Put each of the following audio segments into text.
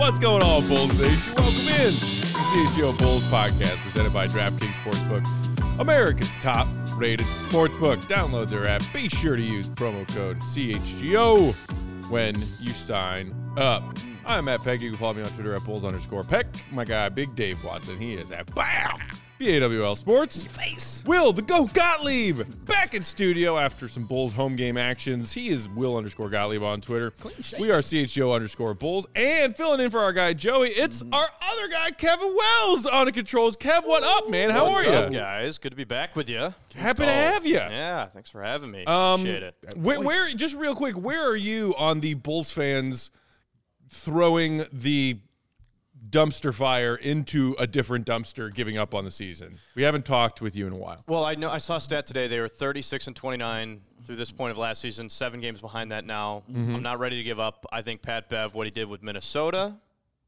What's going on, Bulls Nation? Welcome in to the CHGO Bulls podcast presented by DraftKings Sportsbook, America's top-rated sportsbook. Download their app. Be sure to use promo code CHGO when you sign up. I'm Matt Peck. You can follow me on Twitter at Bulls_Peck. My guy, Big Dave Watson, he is at BAWL Sports. Face. Will the Goat Gottlieb back in studio after some Bulls home game actions. He is Will_Gottlieb on Twitter. We are CHGO_Bulls. And filling in for our guy Joey, it's our other guy, Kevin Wells, on the controls. Kev, what up, man? How are you? What's up, guys? Good to be back with you. Happy to have you. Yeah, thanks for having me. Appreciate it. Where, just real quick, where are you on the Bulls fans throwing the dumpster fire into a different dumpster, giving up on the season? We haven't talked with you in a while. Well, I saw a stat today. They were 36-29 through this point of last season. 7 games behind that now. I'm not ready to give up. I think Pat Bev, what he did with Minnesota,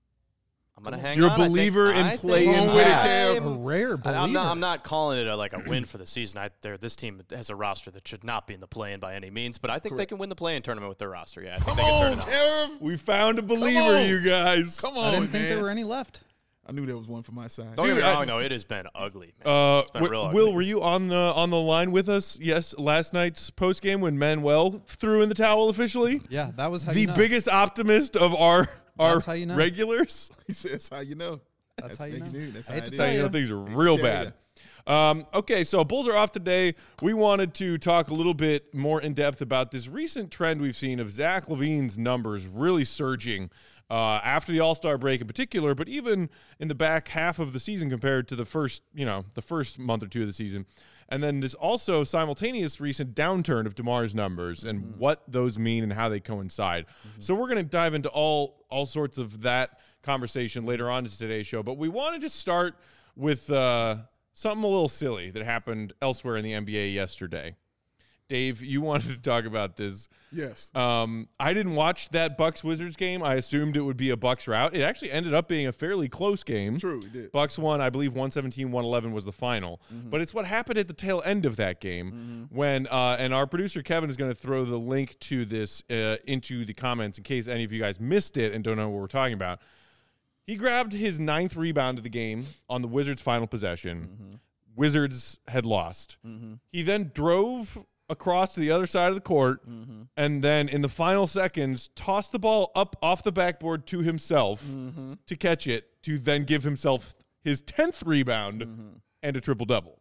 I'm going to hang You're on. a believer in playing A rare believer. I'm not calling it a win for the season. This team has a roster that should not be in the play-in by any means, but I think they can win the play-in tournament with their roster. Yeah, I think they can turn it on. We found a believer, you guys. Come on, I didn't think man. there were any left. I knew there was one for my side. Don't get me Dude, wrong, no, it has been ugly, man. It's been real ugly. Will, were you on the line with us? Yes, last night's post game when Manuel threw in the towel officially. Yeah, that was how The you know. biggest optimist of our That's how you know. regulars. He says, "How you know?" That's how you know. That's I how hate it to is. tell you. Things are real bad. Okay, so Bulls are off today. We wanted to talk a little bit more in depth about this recent trend we've seen of Zach LaVine's numbers really surging after the All-Star break in particular, but even in the back half of the season compared to the first month or two of the season. And then this also simultaneous recent downturn of DeMar's numbers and what those mean and how they coincide. So we're going to dive into all sorts of that conversation later on in today's show. But we wanted to start with something a little silly that happened elsewhere in the NBA yesterday. Dave, you wanted to talk about this. Yes. I didn't watch that Bucks-Wizards game. I assumed it would be a Bucks rout. It actually ended up being a fairly close game. True, it did. Bucks won, I believe, 117-111 was the final. But it's what happened at the tail end of that game when, and our producer Kevin is going to throw the link to this into the comments in case any of you guys missed it and don't know what we're talking about. He grabbed his 9th rebound of the game on the Wizards' final possession. Wizards had lost. He then drove across to the other side of the court and then in the final seconds tossed the ball up off the backboard to himself to catch it, to then give himself his 10th rebound and a triple-double.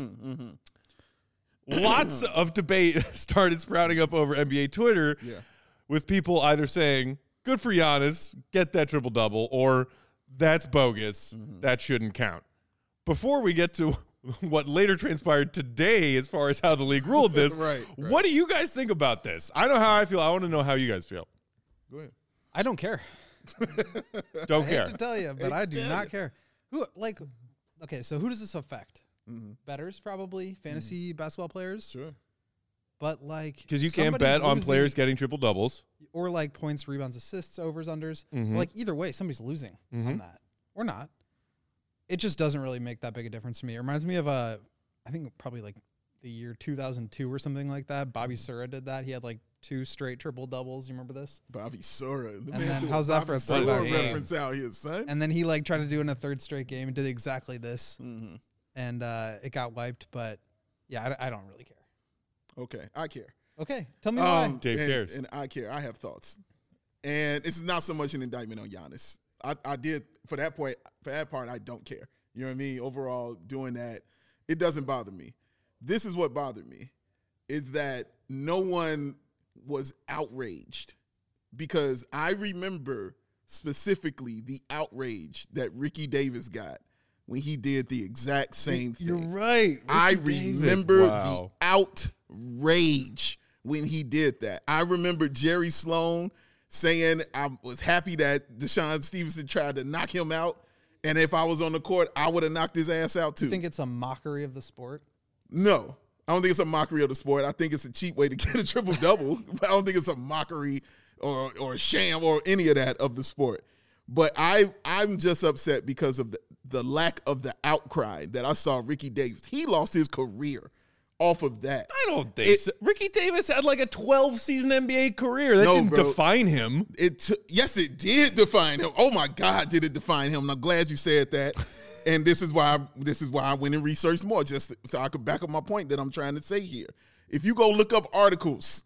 Lots of debate started sprouting up over NBA Twitter with people either saying, good for Giannis, get that triple-double, or that's bogus, that shouldn't count. Before we get to what later transpired today as far as how the league ruled this, Right. What do you guys think about this? I know how I feel. I want to know how you guys feel. Go ahead. I don't care. Don't I care. hate to tell you, but I do not care. Okay, so who does this affect? Bettors, probably, fantasy basketball players. Sure. But Because you can't somebody's bet on losing, players getting triple-doubles. or points, rebounds, assists, overs, unders. Either way, somebody's losing on that or not. It just doesn't really make that big a difference to me. It reminds me of I think probably the year 2002 or something like that. Bobby Sura did that. He had 2 straight triple doubles. You remember this? Bobby Sura. The And man then threw how's that for a Bobby throwback Sura game? reference out here, son? And then he tried to do it in a 3rd straight game and did exactly this. And it got wiped. But yeah, I don't really care. Okay, I care. Okay, tell me why. Dave cares. And I care. I have thoughts. And this is not so much an indictment on Giannis. I did, for that part, I don't care. You know what I mean? Overall, doing that, it doesn't bother me. This is what bothered me, is that no one was outraged, because I remember specifically the outrage that Ricky Davis got when he did the exact same thing. You're right. I Ricky Davis. remember Wow. the outrage when he did that. I remember Jerry Sloan saying I was happy that Deshaun Stevenson tried to knock him out, and if I was on the court, I would have knocked his ass out too. You think it's a mockery of the sport? No, I don't think it's a mockery of the sport. I think it's a cheap way to get a triple-double. But I don't think it's a mockery or a sham or any of that of the sport. But I'm just upset because of the lack of the outcry that I saw Ricky Davis. He lost his career off of that. I don't think so. Ricky Davis had like a 12-season NBA career. That didn't define him. Yes, it did define him. Oh my God, did it define him? And I'm glad you said that. And this is why I went and researched more, just so I could back up my point that I'm trying to say here. If you go look up articles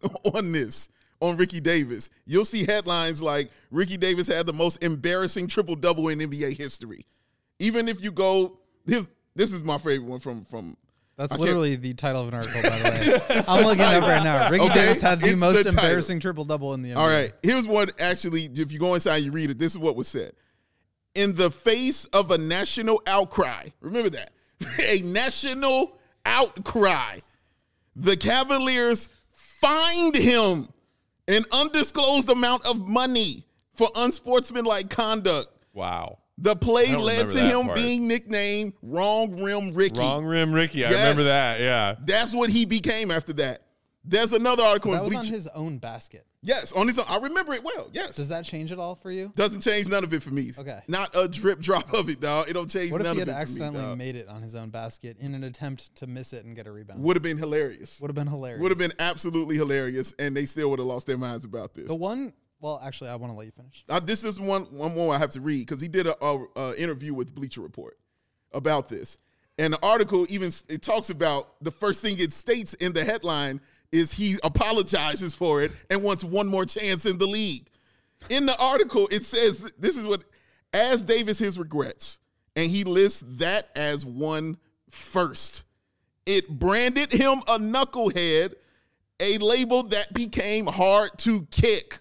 on Ricky Davis, you'll see headlines like Ricky Davis had the most embarrassing triple-double in NBA history. Even if you go, this is my favorite one from That's literally the title of an article, by the way. I'm looking it up right now. Ricky Davis had the most embarrassing triple-double in the NBA. All right, here's one actually, if you go inside and you read it, this is what was said. In the face of a national outcry, remember that, a national outcry, the Cavaliers fined him an undisclosed amount of money for unsportsmanlike conduct. Wow. The play led to him being nicknamed Wrong Rim Ricky. Wrong Rim Ricky. I remember that, yeah. That's what he became after that. There's another article that in was Bleacher. on his own basket. Yes, on his own. I remember it well, yes. Does that change it all for you? Doesn't change none of it for me. Okay. Not a drip drop of it, dog. It don't change none of it for me, What if he had accidentally made it on his own basket in an attempt to miss it and get a rebound? Would have been hilarious. Would have been hilarious. Would have been absolutely hilarious, and they still would have lost their minds about this. Well, actually, I want to let you finish. This is one more I have to read because he did a interview with Bleacher Report about this. And the article it talks about the first thing it states in the headline is he apologizes for it and wants one more chance in the league. In the article, it says, this is what, as Davis his regrets, and he lists that as one first. It branded him a knucklehead, a label that became hard to kick.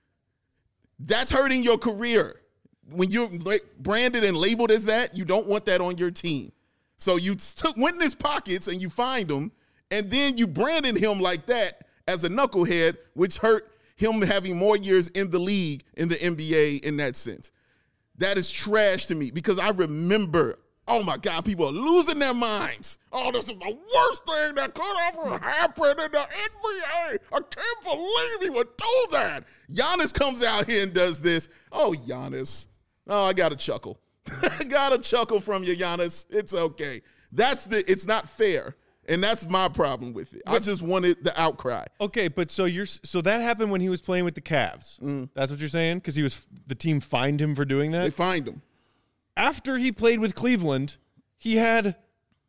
That's hurting your career. When you're branded and labeled as that, you don't want that on your team. So you went in his pockets and you find him, and then you branded him like that as a knucklehead, which hurt him having more years in the league, in the NBA in that sense. That is trash to me because I remember, oh my God, people are losing their minds. Oh, this is the worst thing that could ever happen in the NBA. I can't believe he would do that. Giannis comes out here and does this. Oh, Giannis. Oh, I got to chuckle. I got to chuckle from you, Giannis. It's okay. It's not fair. And that's my problem with it. I just wanted the outcry. Okay, but so that happened when he was playing with the Cavs. That's what you're saying? Because the team fined him for doing that? They fined him. After he played with Cleveland, he had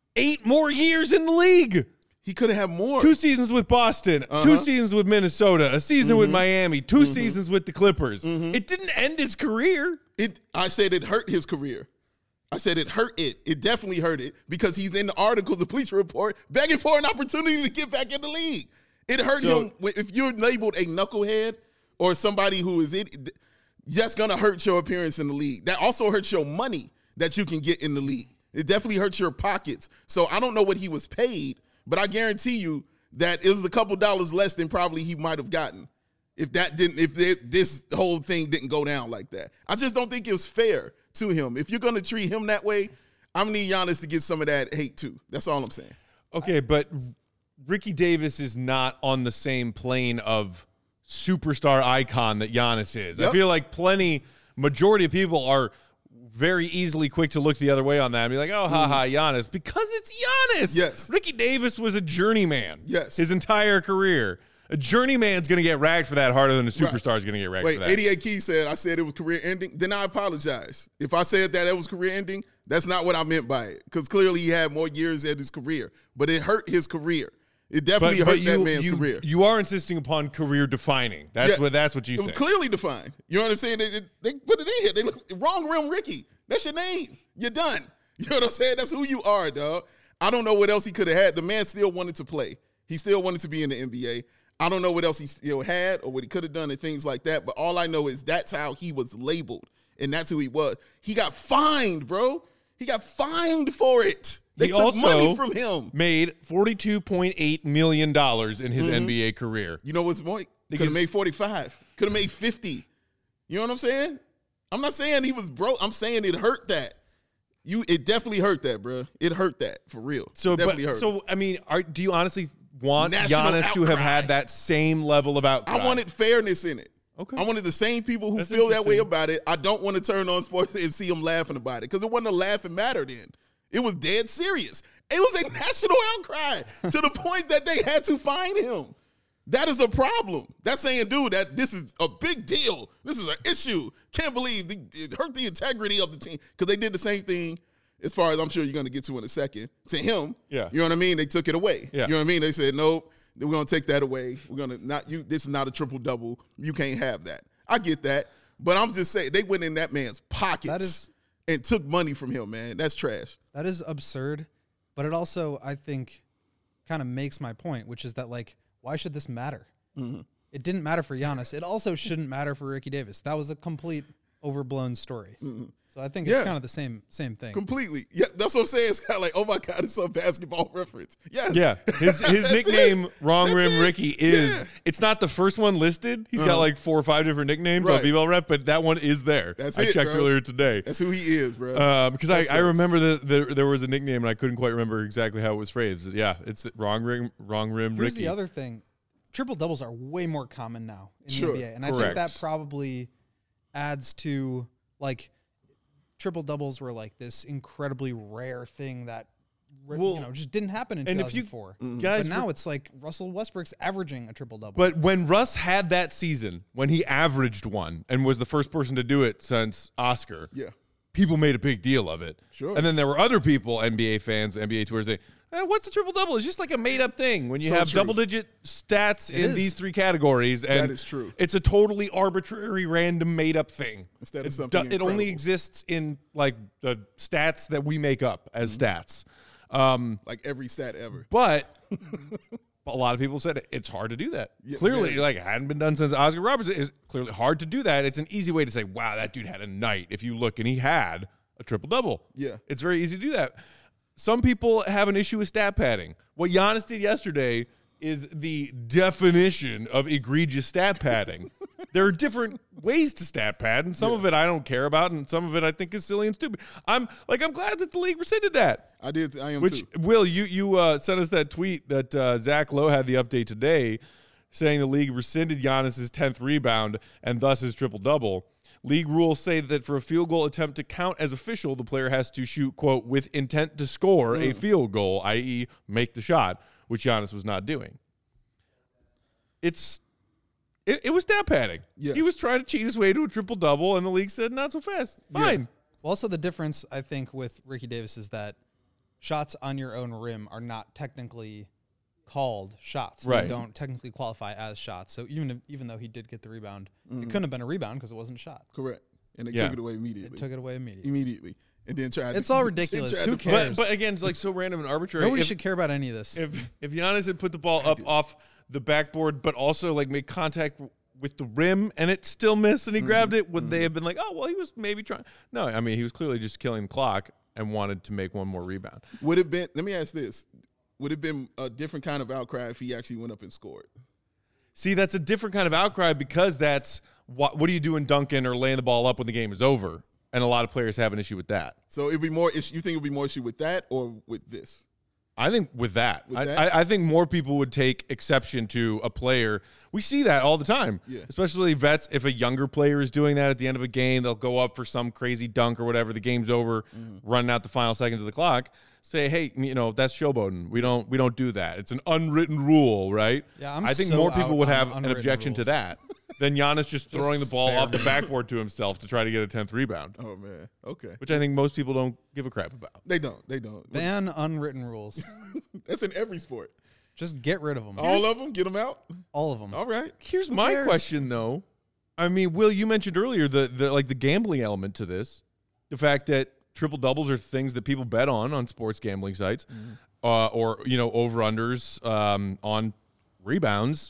8 more years in the league. He could have had more. 2 seasons with Boston, 2 seasons with Minnesota, a season with Miami, 2 seasons with the Clippers. It didn't end his career. I said it hurt his career. I said it hurt it. It definitely hurt it because he's in the articles, the Bleacher Report, begging for an opportunity to get back in the league. It hurt him. If you're labeled a knucklehead or somebody who is it, that's going to hurt your appearance in the league. That also hurts your money that you can get in the league. It definitely hurts your pockets. So I don't know what he was paid, but I guarantee you that it was a couple dollars less than probably he might have gotten if this whole thing didn't go down like that. I just don't think it was fair to him. If you're going to treat him that way, I'm going to need Giannis to get some of that hate too. That's all I'm saying. Okay, but Ricky Davis is not on the same plane of superstar icon that Giannis is. Yep. I feel like majority of people are very easily quick to look the other way on that and be like, oh, Giannis. Because it's Giannis. Yes. Ricky Davis was a journeyman. Yes. His entire career. A journeyman's going to get ragged for that harder than a superstar is going to get ragged for that. 88 Key said, I said it was career ending. Then I apologize. If I said that it was career ending, that's not what I meant by it. Because clearly he had more years at his career. But it hurt his career. It definitely hurt that man's career. You are insisting upon career defining. That's what you think. It was clearly defined. You know what I'm saying? They put it in here. They look, Wrong Rim Ricky. That's your name. You're done. You know what I'm saying? That's who you are, dog. I don't know what else he could have had. The man still wanted to play. He still wanted to be in the NBA. I don't know what else he still had or what he could have done and things like that. But all I know is that's how he was labeled. And that's who he was. He got fined, bro. He got fined for it. They took money from him. Made $42.8 million in his NBA career. You know what's more? Could have made 45. Could have made 50. You know what I'm saying? I'm not saying he was broke. I'm saying it hurt that. It definitely hurt that, bro. It hurt that for real. I mean, do you honestly want Giannis to have had that same level of outcry? I wanted fairness in it. Okay. I wanted the same people who feel that way about it. I don't want to turn on sports and see them laughing about it because it wasn't a laughing matter then. It was dead serious. It was a national outcry to the point that they had to fine him. That is a problem. That's saying, dude, that this is a big deal. This is an issue. Can't believe it hurt the integrity of the team because they did the same thing. As far as I'm sure you're going to get to in a second, to him, Yeah. You know what I mean? They took it away. Yeah. You know what I mean? They said, nope, we're going to take that away. We're going to not you. This is not a triple-double. You can't have that. I get that. But I'm just saying, they went in that man's pockets and took money from him, man. That's trash. That is absurd. But it also, I think, kind of makes my point, which is that, like, why should this matter? Mm-hmm. It didn't matter for Giannis. It also shouldn't matter for Ricky Davis. That was a complete overblown story. Mm-hmm. So I think it's kind of the same thing. Completely. Yeah, that's what I'm saying. It's kind of like, oh my God, it's a basketball reference. Yes. Yeah, his nickname, Wrong That's Rim it. Ricky, is Yeah. it's not the first one listed. He's got like 4 or 5 different nicknames on Right. B-Ball Ref, but that one is there. That's I it, checked bro. earlier today. That's who he is, bro. Because That I sucks. remember that there was a nickname and I couldn't quite remember exactly how it was phrased. Yeah, it's Wrong Rim Here's Ricky. the other thing. Triple doubles are way more common now in Sure. the NBA. And I Correct. think that probably adds to, like, triple doubles were like this incredibly rare thing that just didn't happen in and if you 2004. guys But now it's like Russell Westbrook's averaging a triple double. But when Russ had that season, when he averaged one and was the first person to do it since Oscar, Yeah. people made a big deal of it. Sure. And then there were other people, NBA fans, NBA tours, saying, what's a triple double? It's just like a made up thing when you So have true. double digit stats in is. these 3 categories. And That is true. It's a totally arbitrary, random, made up thing. Instead of It something it only incredible. exists in like the stats that we make up as Mm-hmm. stats. Like every stat ever. But a lot of people said it's hard to do that. Yeah, Clearly, very. like it hadn't been done since Oscar Robertson. It's clearly hard to do that. It's an easy way to say, wow, that dude had a night. If you look and he had a triple double. Yeah. It's very easy to do that. Some people have an issue with stat padding. What Giannis did yesterday is the definition of egregious stat padding. There are different ways to stat pad, and some of it I don't care about, and some of it I think is silly and stupid. I'm glad that the league rescinded that. I am Which too. Will, you sent us that tweet that Zach Lowe had the update today, saying the league rescinded Giannis's 10th rebound and thus his triple double. League rules say that for a field goal attempt to count as official, the player has to shoot, quote, with intent to score a field goal, i.e., make the shot, which Giannis was not doing. It was stat padding. Yeah. He was trying to cheat his way to a triple double, and the league said not so fast. Fine. Well, also, the difference, I think, with Ricky Davis is that shots on your own rim are not technically called shots. Right. They don't technically qualify as shots. So even though he did get the rebound, it couldn't have been a rebound because it wasn't a shot. Correct. And they Yeah. took it away immediately. Took it away immediately. Immediately. And then tried It's to, all then ridiculous. tried Who to- cares? But again, it's like so random and arbitrary. Nobody If- should care about any of this. If Giannis had put the ball up off the backboard, but also like made contact with the rim and it still missed and he grabbed it, would they have been like, oh, well, he was maybe trying? No, I mean, he was clearly just killing the clock and wanted to make one more rebound. Would it been? Let me ask this: would it have been a different kind of outcry if he actually went up and scored? See, that's a different kind of outcry because that's what do you do in Duncan or laying the ball up when the game is over? And a lot of players have an issue with that. So it'd be more. You think it'd be more issue with that or with this? I think with that, With that? I think more people would take exception to a player. We see that all the time, Yeah. especially vets. If a younger player is doing that at the end of a game, they'll go up for some crazy dunk or whatever. The game's over, running out the final seconds of the clock. Say, hey, that's showboating. We don't do that. It's an unwritten rule, right? Yeah, I think so more people out would on have an unwritten objection to rules. that than Giannis just throwing the ball spare off the me. backboard to himself to try to get a 10th rebound, Oh man. Okay. which I think most people don't give a crap about. They don't. They don't. Ban unwritten rules. That's in every sport. Just get rid of them. All of them. Get them out. All of them. All right. Here's my cares? question, though. I mean, Will, you mentioned earlier the gambling element to this, the fact that triple doubles are things that people bet on sports gambling sites, or over unders on rebounds.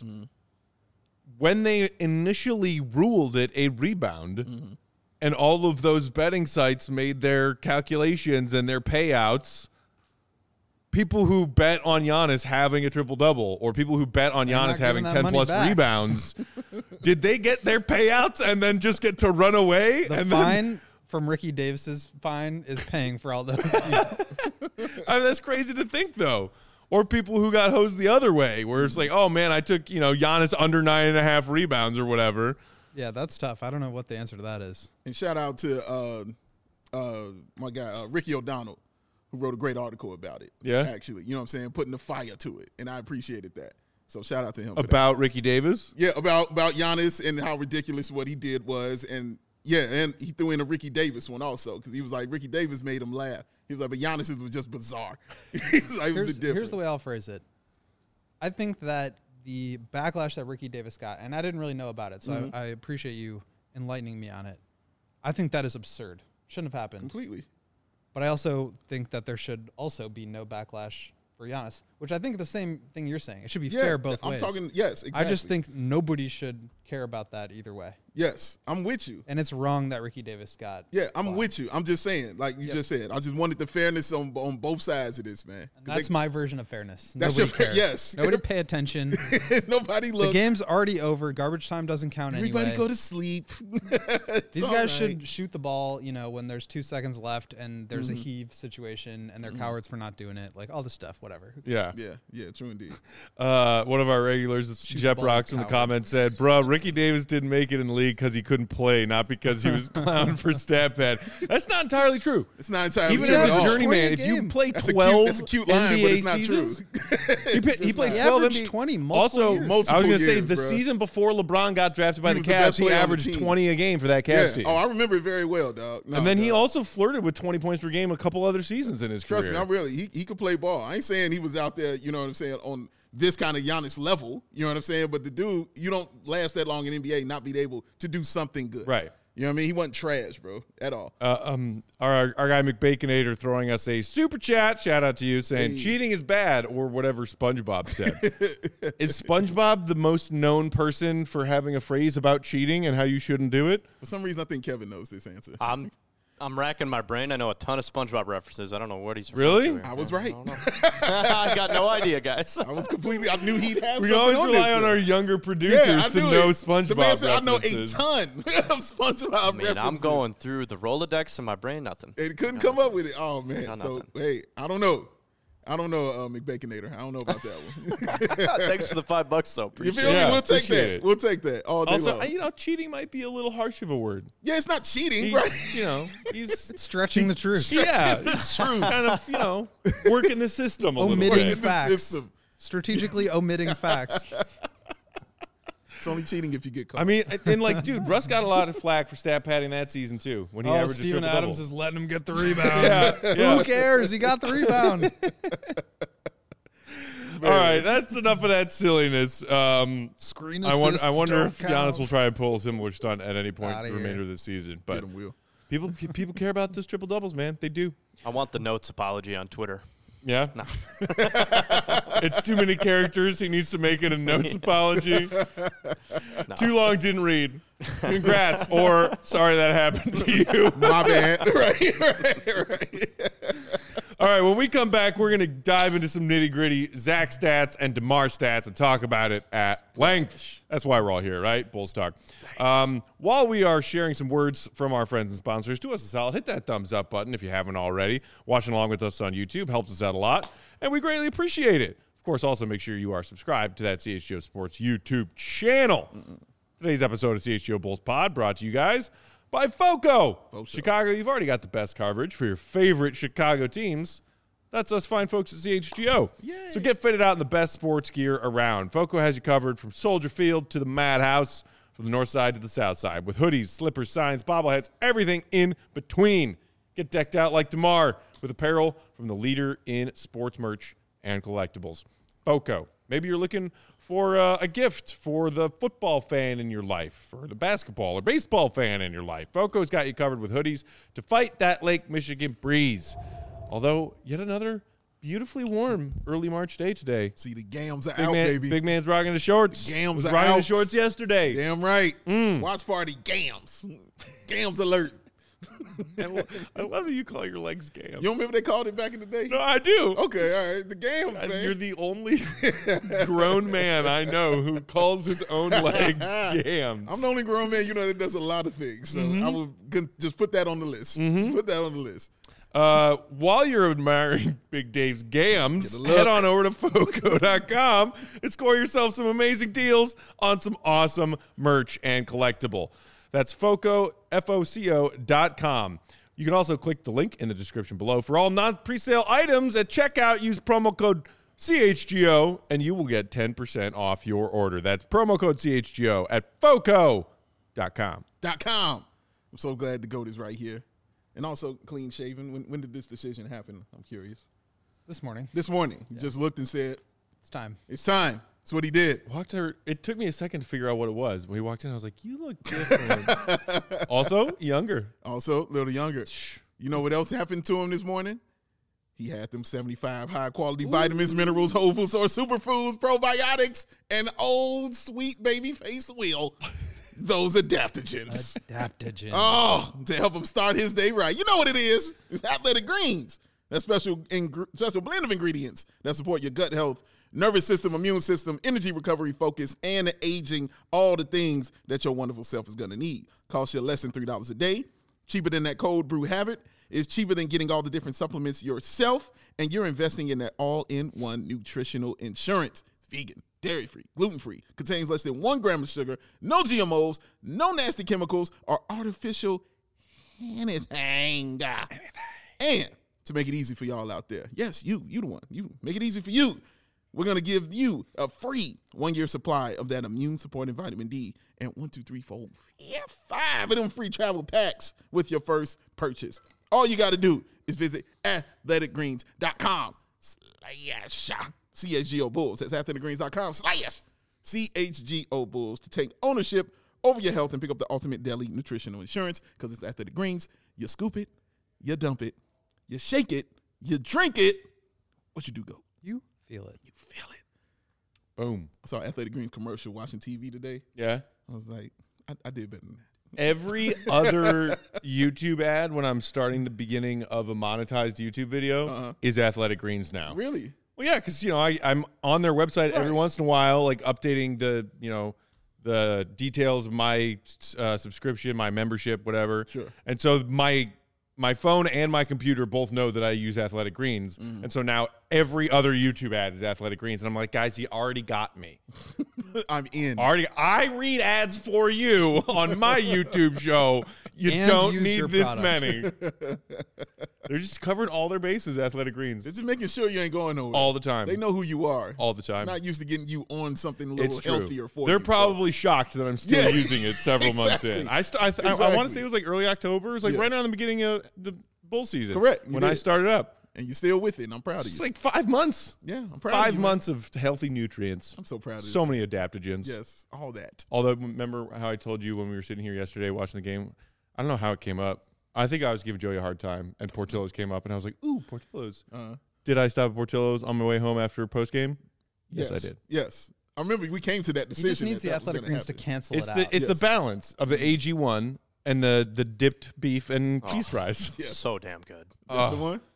When they initially ruled it a rebound, and all of those betting sites made their calculations and their payouts. People who bet on Giannis having a triple-double or people who bet on They're Giannis not having giving that money 10-plus back. rebounds, did they get their payouts and then just get to run away? The and fine from Ricky Davis's fine is paying for all those. I mean, that's crazy to think, though. Or people who got hosed the other way, where it's like, oh, man, I took, Giannis under 9.5 rebounds or whatever. Yeah, that's tough. I don't know what the answer to that is. And shout out to my guy Ricky O'Donnell, who who wrote a great article about it. Yeah? Actually, you know what I'm saying? Putting the fire to it. And I appreciated that. So shout out to him. About Ricky Davis? Yeah, about Giannis and how ridiculous what he did was. And yeah, and he threw in a Ricky Davis one also because he was like, Ricky Davis made him laugh. He was like, but Giannis's was just bizarre. He was like, Here's the way I'll phrase it. I think that the backlash that Ricky Davis got, and I didn't really know about it, so I appreciate you enlightening me on it. I think that is absurd. Shouldn't have happened. Completely. But I also think that there should also be no backlash for Giannis, which I think the same thing you're saying. It should be fair both ways. I'm talking, yes, exactly. I just think nobody should care about that either way. Yes, I'm with you. And it's wrong that Ricky Davis got. Yeah, I'm with you. I'm just saying, like you just said, I just wanted the fairness on both sides of this, man. And that's my version of fairness. That's Nobody your yes. Nobody pay attention. Nobody look. The game's already over. Garbage time doesn't count Everybody anyway. go to sleep. These guys should shoot the ball, when there's 2 seconds left and there's a heave situation and they're cowards for not doing it. Like all this stuff, whatever. Yeah. Yeah, true indeed. One of our regulars, Jeff Rocks, in the comments said, "Bro, Ricky Davis didn't make it in the league because he couldn't play, not because he was clowned for stat pad." That's not entirely true. It's not entirely Even true. as at a all. journeyman, if you play 12 that's a cute line, NBA but it's not seasons, true. he played He 12 averaged NBA 20 multiple Also, years. I Multiple was going to say years, the bro. season before LeBron got drafted by He the was the best Cavs, he player on the averaged team. 20 a game for that Cavs team. Oh, I remember it very well, dog. No, and then he dog. also flirted with 20 points per game a couple other seasons in his Trust career. me, I really he could play ball. I ain't saying he was out there, you know what I'm saying, on this kind of Giannis level, you know what I'm saying? But the dude, you don't last that long in NBA not be able to do something good. Right. You know what I mean? He wasn't trash, bro, at all. Our guy McBaconator throwing us a super chat. Shout out to you saying cheating is bad or whatever SpongeBob said. Is SpongeBob the most known person for having a phrase about cheating and how you shouldn't do it? For some reason, I think Kevin knows this answer. I'm racking my brain. I know a ton of SpongeBob references. I don't know what he's Really? referring to here. I was right. I got no idea, guys. I knew he'd have We something always on rely this, on though. our younger producers to knew know it. SpongeBob The man said, references. I know a ton of SpongeBob Man, references. I'm going through the Rolodex in my brain, nothing. It couldn't come up with it. Oh, man. Got So, nothing. hey, I don't know. McBaconator. I don't know about that one. Thanks for the $5, though. You Appreciate feel it. Yeah, me? We'll take appreciate that. it. We'll take that all day Also, long. cheating might be a little harsh of a word. Yeah, it's not cheating, He's, right? He's Stretching the truth. yeah, it's true. Kind of, working the system a little Omitting bit. In the facts. system. Strategically omitting facts. It's only cheating if you get caught. I mean, and dude, Russ got a lot of flack for stat padding that season too when he averaged Steven a Adams triple-double. is letting him get the rebound. Yeah. Who cares? He got the rebound. All right, that's enough of that silliness. Screen I wonder don't if count. Giannis will try and pull a similar stunt at any point Outta the here. remainder of the season. But Get him, Will. people care about those triple doubles, man. They do. I want the notes apology on Twitter. Yeah. No. It's too many characters. He needs to make it a notes apology. No. Too long, didn't read. Congrats, or sorry that happened to you. My bad. right. All right, when we come back, we're going to dive into some nitty-gritty Zach stats and DeMar stats and talk about it at length. That's why we're all here, right? Bulls Talk. While we are sharing some words from our friends and sponsors, do us a solid. Hit that thumbs up button if you haven't already. Watching along with us on YouTube helps us out a lot, and we greatly appreciate it. Of course, also make sure you are subscribed to that CHGO Sports YouTube channel. Today's episode of CHGO Bulls Pod brought to you guys by FOCO. Chicago, you've already got the best coverage for your favorite Chicago teams. That's us fine folks at CHGO. Yay. So get fitted out in the best sports gear around. FOCO has you covered from Soldier Field to the Madhouse, from the north side to the south side, with hoodies, slippers, signs, bobbleheads, everything in between. Get decked out like DeMar with apparel from the leader in sports merch and collectibles. FOCO. Maybe you're looking for a gift for the football fan in your life, for the basketball or baseball fan in your life. FOCO's got you covered with hoodies to fight that Lake Michigan breeze. Although, yet another beautifully warm early March day today. See, the gams are out, baby. Big man's rocking the shorts. The gams was are rocking the out. shorts yesterday. Damn right. Watch party gams. Gams alert. I love that you call your legs gams. You don't remember they called it back in the day? No, I do. Okay, all right. The gams, And man. you're the only grown man I know who calls his own legs gams. I'm the only grown man, that does a lot of things. So I will just put that on the list. Just put that on the list. While you're admiring Big Dave's gams, Get a look. head on over to FOCO.com and score yourself some amazing deals on some awesome merch and collectible. That's FOCO, FOCO.com. You can also click the link in the description below. For all non-presale items at checkout, use promo code CHGO, and you will get 10% off your order. That's promo code CHGO at foco.com. I'm so glad the GOAT is right here. And also clean shaven. When did this decision happen? I'm curious. This morning. This morning. He just looked and said, It's time. it's time. That's what he did. It took me a second to figure out what it was. When he walked in, I was like, you look different. Also, younger. Also, a little younger. You know what else happened to him this morning? He had them 75 high-quality vitamins, minerals, whole foods, or superfoods, probiotics, and old sweet baby face wheel. Those adaptogens. Adaptogens. Oh, to help him start his day right. You know what it is. It's Athletic Greens. That special blend of ingredients that support your gut health, nervous system, immune system, energy recovery, focus, and aging, all the things that your wonderful self is going to need. Costs you less than $3 a day. Cheaper than that cold brew habit. It's cheaper than getting all the different supplements yourself, and you're investing in that all-in-one nutritional insurance. It's vegan, dairy-free, gluten-free, contains less than 1 gram of sugar, no GMOs, no nasty chemicals, or artificial anything. And to make it easy for y'all out there, yes, you the one. You make it easy for you. We're going to give you a free 1-year supply of that immune-supporting vitamin D and 5 of them free travel packs with your first purchase. All you got to do is visit athleticgreens.com/CHGO Bulls. That's athleticgreens.com/CHGO Bulls to take ownership over your health and pick up the ultimate daily nutritional insurance, because it's Athletic Greens. You scoop it, you dump it, you shake it, you drink it. What you do, go? You feel it. You feel it. Boom. I saw Athletic Greens commercial watching TV today. Yeah. I was like, I did better than that. Every other YouTube ad when I'm starting the beginning of a monetized YouTube video is Athletic Greens now. Really? Well, yeah, because, I'm on their website every once in a while, like updating the details of my subscription, my membership, whatever. Sure. And so my phone and my computer both know that I use Athletic Greens. And so now every other YouTube ad is Athletic Greens. And I'm like, guys, you already got me. I'm in. I read ads for you on my YouTube show. You And don't use need your this product. many. They're just covering all their bases, Athletic Greens. They're just making sure you ain't going nowhere. All the time. They know who you are. All the time. It's not used to getting you on something a It's little true. healthier for They're you. probably shocked that I'm still Yeah. using it several months Exactly. in. I want to Exactly. say it was like early October. It was like Yeah. right around the beginning of the bull season. Correct. You When I did. started up. and you're still with it, and I'm proud of It's you. like 5 months. Yeah, I'm proud of you. 5 man. months of healthy nutrients. I'm so proud of So this. many adaptogens. Yes, all that. Although, remember how I told you when we were sitting here yesterday watching the game? I don't know how it came up. I think I was giving Joey a hard time, and Portillo's came up, and I was like, ooh, Portillo's. Did I stop at Portillo's on my way home after postgame? Yes, I did. Yes. I remember we came to that He decision. just needs that the that was Athletic gonna Greens to happen. cancel It's it the out. it's the Yes. balance of the AG1 and the dipped beef and cheese fries. Yeah. So damn good. That's the one?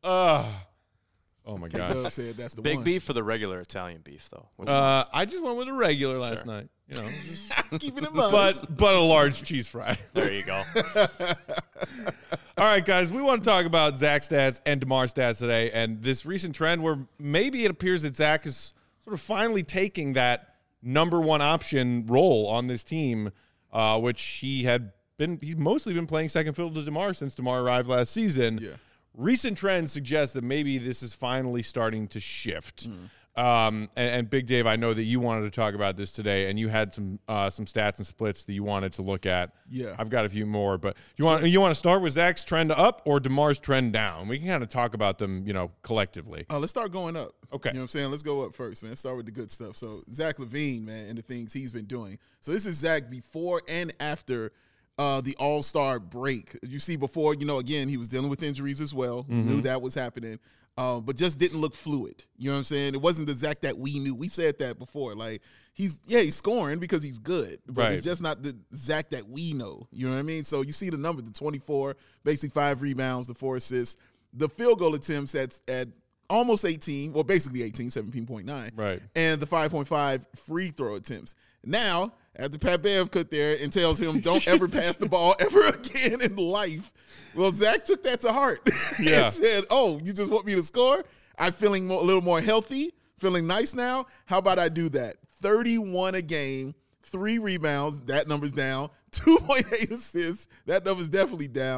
Oh my god. Dub said that's the Big one. beef for the regular Italian beef, though. I just went with a regular last night. You know, Keeping it modest. but a large cheese fry. There you go. All right, guys, we want to talk about Zach stats and DeMar stats today, and this recent trend where maybe it appears that Zach is sort of finally taking that number one option role on this team, which he's mostly been playing second fiddle to DeMar since DeMar arrived last season. Yeah. Recent trends suggest that maybe this is finally starting to shift. And Big Dave, I know that you wanted to talk about this today, and you had some stats and splits that you wanted to look at. Yeah. I've got a few more, but you want to start with Zach's trend up or DeMar's trend down? We can kind of talk about them, collectively. Let's start going up. Okay. You know what I'm saying? Let's go up first, man. Let's start with the good stuff. So, Zach LaVine, man, and the things he's been doing. So, this is Zach before and after the All-Star break. You see before, again, he was dealing with injuries as well. Knew that was happening, but just didn't look fluid. You know what I'm saying? It wasn't the Zach that we knew. We said that before. Like, he's scoring because he's good, but Right. it's just not the Zach that we know. You know what I mean? So, you see the number, the 24, basically 5 rebounds, the 4 assists, the field goal attempts at almost 18, well, basically 18, 17.9. Right. And the 5.5 free throw attempts. Now, after Pat Bev cut there and tells him, don't ever pass the ball ever again in life, well, Zach took that to heart Yeah. and said, oh, you just want me to score? I'm feeling a little more healthy, feeling nice now. How about I do that? 31 a game, 3 rebounds, that number's down. 2.8 assists, that number's definitely down.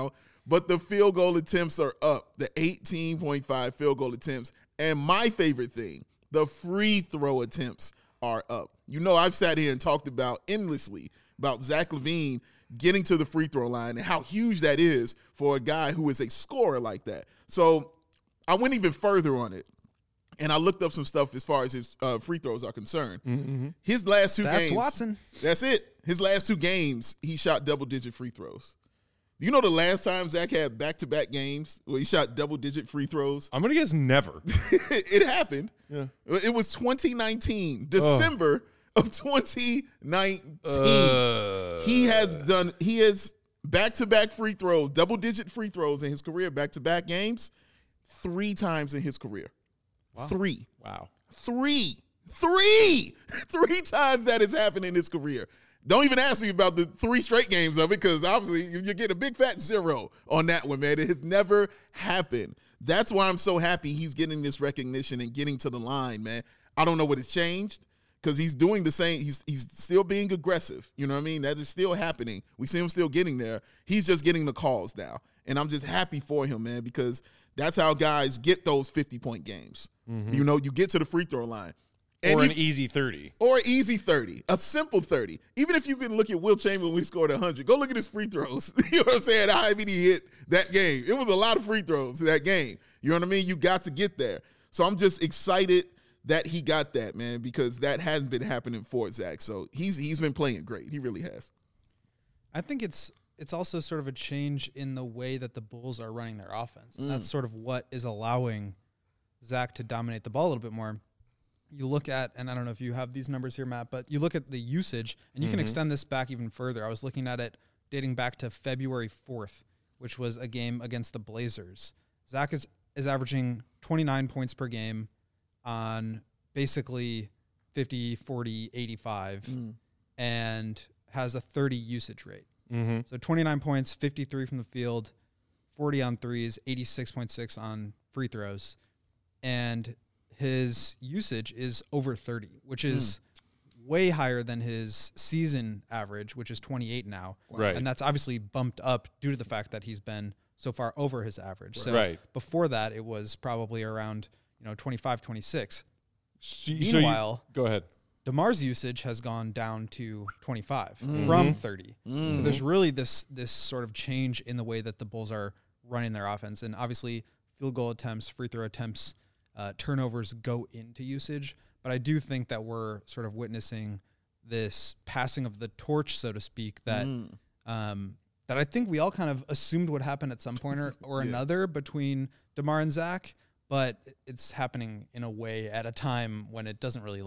but the field goal attempts are up. The 18.5 field goal attempts. And my favorite thing, the free throw attempts are up. You know, I've sat here and talked about endlessly about Zach LaVine getting to the free throw line and how huge that is for a guy who is a scorer like that. So I went even further on it, and I looked up some stuff as far as his free throws are concerned. Mm-hmm. His last 2 games. That's Watson. That's it. His last 2 games, he shot double-digit free throws. You know the last time Zach had back-to-back games where he shot double-digit free throws? I'm going to guess never. It happened. Yeah. It was 2019, December of 2019. He has back-to-back free throws, double-digit free throws in his career, back-to-back games, 3 times in his career. Wow. 3. Wow. 3 times that has happened in his career. Don't even ask me about the 3 straight games of it, because obviously you get a big fat 0 on that one, man. It has never happened. That's why I'm so happy he's getting this recognition and getting to the line, man. I don't know what has changed, because he's doing the same. He's still being aggressive. You know what I mean? That is still happening. We see him still getting there. He's just getting the calls now. And I'm just happy for him, man, because that's how guys get those 50-point games. Mm-hmm. You know, you get to the free throw line. Or an easy 30. Or an easy 30. A simple 30. Even if you can look at Will Chamberlain when he scored 100, go look at his free throws. You know what I'm saying? How many he hit that game. It was a lot of free throws that game. You know what I mean? You got to get there. So I'm just excited that he got that, man, because that hasn't been happening for Zach. So he's been playing great. He really has. I think it's also sort of a change in the way that the Bulls are running their offense. And that's sort of what is allowing Zach to dominate the ball a little bit more. You look at, and I don't know if you have these numbers here, Matt, but you look at the usage, and you can extend this back even further. I was looking at it dating back to February 4th, which was a game against the Blazers. Zach is averaging 29 points per game on basically 50, 40, 85, and has a 30 usage rate. Mm-hmm. So 29 points, 53 from the field, 40 on threes, 86.6 on free throws. And his usage is over 30, which is way higher than his season average, which is 28 now. Right. And that's obviously bumped up due to the fact that he's been so far over his average. So before that, it was probably around 25, 26. Meanwhile, go ahead. DeMar's usage has gone down to 25 from 30. So there's really this sort of change in the way that the Bulls are running their offense. And obviously, field goal attempts, free throw attempts, turnovers go into usage. But I do think that we're sort of witnessing this passing of the torch, so to speak, that that I think we all kind of assumed would happen at some point or another between DeMar and Zach. But it's happening in a way at a time when it doesn't really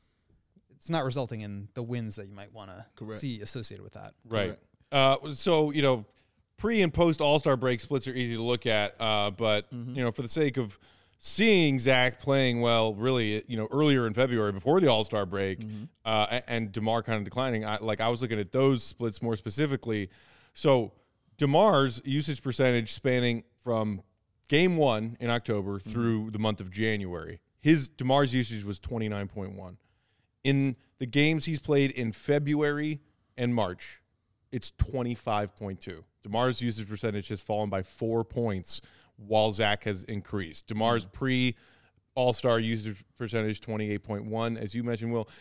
it's not resulting in the wins that you might want to see associated with that. Right. So, pre and post All-Star break splits are easy to look at. But, for the sake of seeing Zach playing well, really, earlier in February before the All-Star break, and DeMar kind of declining, I was looking at those splits more specifically. So DeMar's usage percentage spanning from Game 1 in October through the month of January, DeMar's usage was 29.1. In the games he's played in February and March, it's 25.2. DeMar's usage percentage has fallen by 4 points while Zach has increased. DeMar's pre-All-Star usage percentage, 28.1. As you mentioned, Will,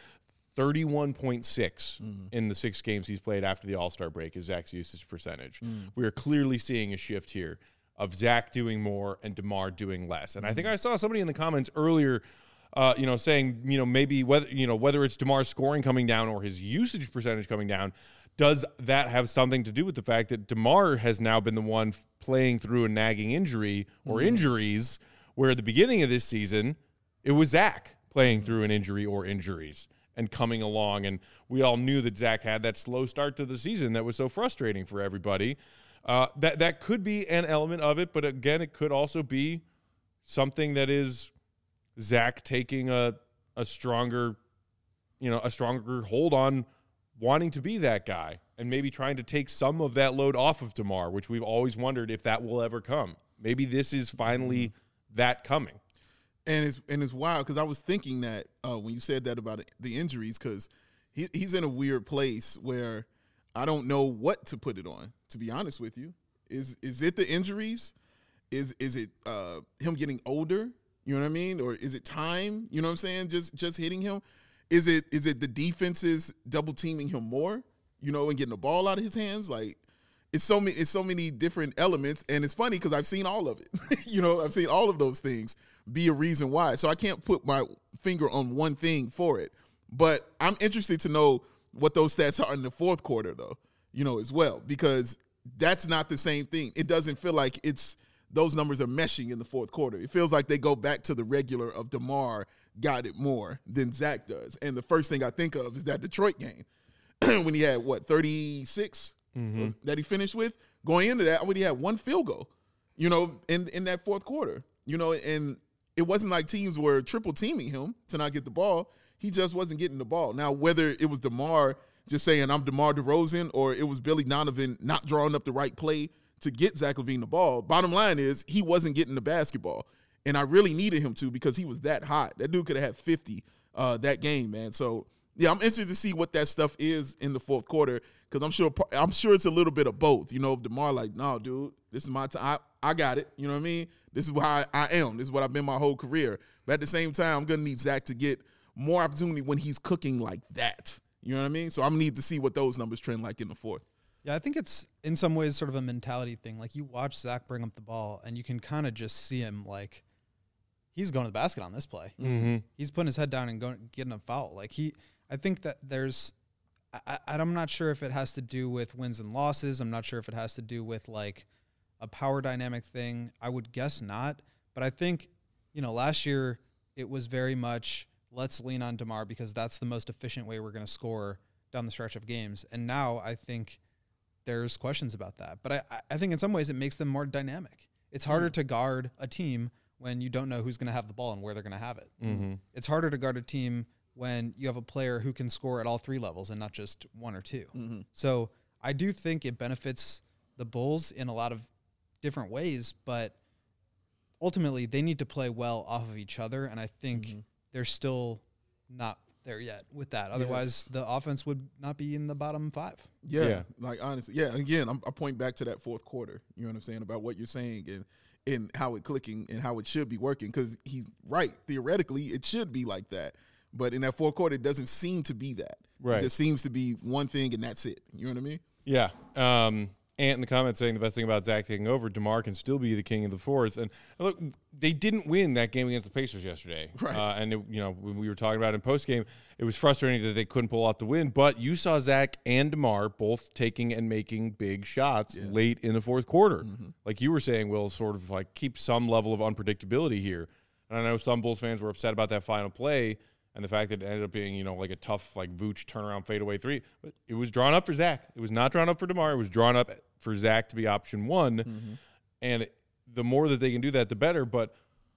31.6 in the 6 games he's played after the All-Star break is Zach's usage percentage. We are clearly seeing a shift here of Zach doing more and DeMar doing less. And I think I saw somebody in the comments earlier saying, maybe whether it's DeMar's scoring coming down or his usage percentage coming down, does that have something to do with the fact that DeMar has now been the one playing through a nagging injury or injuries, where at the beginning of this season, it was Zach playing through an injury or injuries and coming along. And we all knew that Zach had that slow start to the season that was so frustrating for everybody. That could be an element of it, but again, it could also be something that is Zach taking a stronger hold on wanting to be that guy and maybe trying to take some of that load off of DeMar, which we've always wondered if that will ever come. Maybe this is finally that coming. And it's wild, because I was thinking that when you said that about the injuries, because he's in a weird place where I don't know what to put it on, to be honest with you. Is it the injuries? Is it him getting older? You know what I mean? Or is it time? You know what I'm saying? Just hitting him? Is it the defenses double teaming him more? You know, and getting the ball out of his hands? Like, it's so many different elements, and it's funny because I've seen all of it. You know, I've seen all of those things be a reason why. So I can't put my finger on one thing for it. But I'm interested to know what those stats are in the fourth quarter, though, you know, as well, because that's not the same thing. It doesn't feel like those numbers are meshing in the fourth quarter. It feels like they go back to the regular of DeMar got it more than Zach does. And the first thing I think of is that Detroit game when he had, 36 that he finished with? Going into that, when he had one field goal, you know, in that fourth quarter, you know, and it wasn't like teams were triple teaming him to not get the ball. He just wasn't getting the ball. Now, whether it was DeMar just saying, I'm DeMar DeRozan, or it was Billy Donovan not drawing up the right play to get Zach LaVine the ball, bottom line is he wasn't getting the basketball. And I really needed him to because he was that hot. That dude could have had 50 that game, man. So, yeah, I'm interested to see what that stuff is in the fourth quarter because I'm sure it's a little bit of both. You know, if DeMar like, no, dude, this is my time. I got it. You know what I mean? This is how I am. This is what I've been my whole career. But at the same time, I'm going to need Zach to get more opportunity when he's cooking like that. You know what I mean? So I'm going to need to see what those numbers trend like in the fourth. Yeah, I think it's in some ways sort of a mentality thing. Like, you watch Zach bring up the ball, and you can kind of just see him, like, he's going to the basket on this play. Mm-hmm. He's putting his head down and getting a foul. Like, I think that I'm not sure if it has to do with wins and losses. I'm not sure if it has to do with, like, a power dynamic thing. I would guess not. But I think, you know, last year it was very much, let's lean on DeMar because that's the most efficient way we're going to score down the stretch of games. And now I think there's questions about that. But I think in some ways it makes them more dynamic. It's harder to guard a team when you don't know who's going to have the ball and where they're going to have it. Mm-hmm. It's harder to guard a team when you have a player who can score at all three levels and not just one or two. Mm-hmm. So I do think it benefits the Bulls in a lot of different ways, but ultimately they need to play well off of each other, and I think they're still not there yet with that. Otherwise, the offense would not be in the bottom five. Yeah. Like, honestly, yeah, again, I point back to that fourth quarter, you know what I'm saying, about what you're saying and how it clicking and how it should be working, because he's right. Theoretically, it should be like that. But in that fourth quarter, it doesn't seem to be that. Right. It just seems to be one thing, and that's it. You know what I mean? Yeah. Ant in the comments saying the best thing about Zach taking over, DeMar can still be the king of the fourth. And look, they didn't win that game against the Pacers yesterday. Right. And, when we were talking about it in postgame, it was frustrating that they couldn't pull off the win. But you saw Zach and DeMar both taking and making big shots late in the fourth quarter. Mm-hmm. Like you were saying, Will, sort of like keep some level of unpredictability here. And I know some Bulls fans were upset about that final play and the fact that it ended up being, like a tough, like Vooch turnaround fadeaway three. But it was drawn up for Zach. It was not drawn up for DeMar. It was drawn up for Zach to be option one. Mm-hmm. And the more that they can do that, the better. But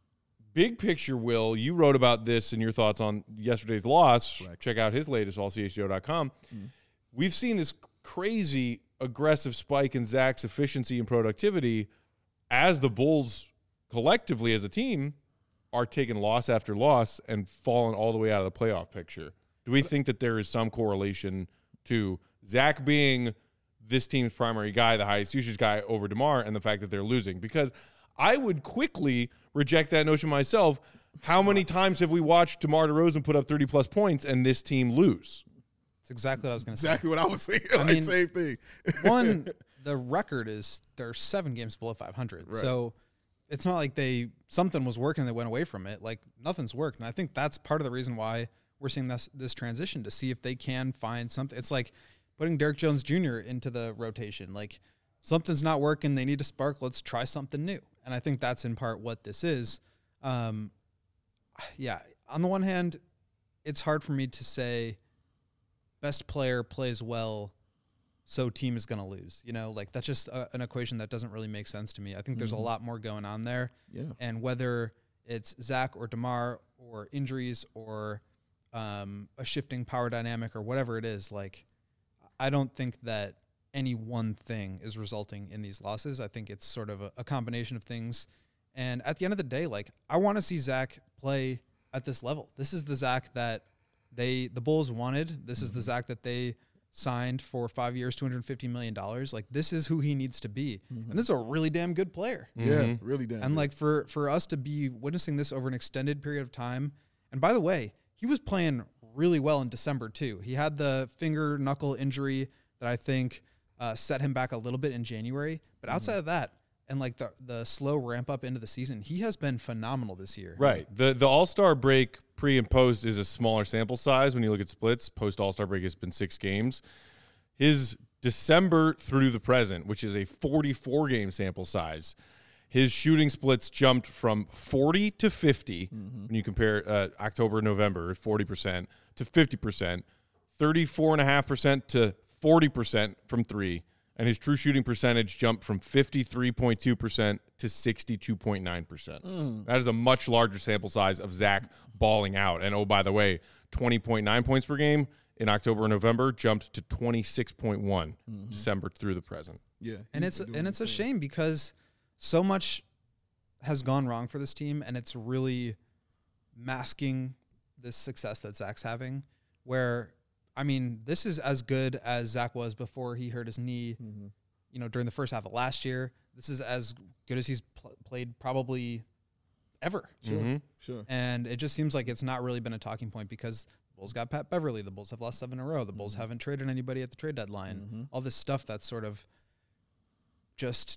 big picture, Will, you wrote about this in your thoughts on yesterday's loss. Right. Check out his latest, allchgo.com. Mm-hmm. We've seen this crazy aggressive spike in Zach's efficiency and productivity as the Bulls collectively as a team are taking loss after loss and falling all the way out of the playoff picture. Do we think that there is some correlation to Zach being this team's primary guy, the highest usage guy over DeMar, and the fact that they're losing? Because I would quickly reject that notion myself. How many times have we watched DeMar DeRozan put up 30-plus points and this team lose? That's exactly what I was going to say. Exactly what I was saying. I mean, same thing. One, the record is they're 7 games below 500. Right. So it's not like something was working that went away from it. Like, nothing's worked. And I think that's part of the reason why we're seeing this transition, to see if they can find something. It's like putting Derrick Jones Jr. into the rotation. Like, something's not working. They need to spark. Let's try something new. And I think that's in part what this is. On the one hand, it's hard for me to say best player plays well, so team is going to lose. Like, that's just an equation that doesn't really make sense to me. I think there's a lot more going on there. Yeah. And whether it's Zach or DeMar or injuries or a shifting power dynamic or whatever it is, like, I don't think that any one thing is resulting in these losses. I think it's sort of a combination of things. And at the end of the day, like, I want to see Zach play at this level. This is the Zach that the Bulls wanted. This is the Zach that they signed for 5 years, $250 million. Like, this is who he needs to be. And this is a really damn good player. Yeah, really damn. And good. like for us to be witnessing this over an extended period of time. And by the way, he was playing really well in December too. He had the finger knuckle injury that I think set him back a little bit in January. But outside of that, and like the slow ramp up into the season, he has been phenomenal this year. Right. The All-Star break pre and post is a smaller sample size when you look at splits. Post All-Star break has been 6 games. His December through the present, which is a 44-game sample size, his shooting splits jumped from 40 to 50 when you compare October, November, 40% to 50%, 34.5% to 40% from 3, and his true shooting percentage jumped from 53.2% to 62.9%. That is a much larger sample size of Zach balling out. And, oh, by the way, 20.9 points per game in October and November jumped to 26.1 December through the present. Yeah, And it's a shame because so much has gone wrong for this team, and it's really masking this success that Zach's having, where, I mean, this is as good as Zach was before he hurt his knee, during the first half of last year. This is as good as he's played probably ever. Sure. And it just seems like it's not really been a talking point because the Bulls got Pat Beverly. The Bulls have lost 7 in a row. The Bulls haven't traded anybody at the trade deadline. All this stuff that's sort of just,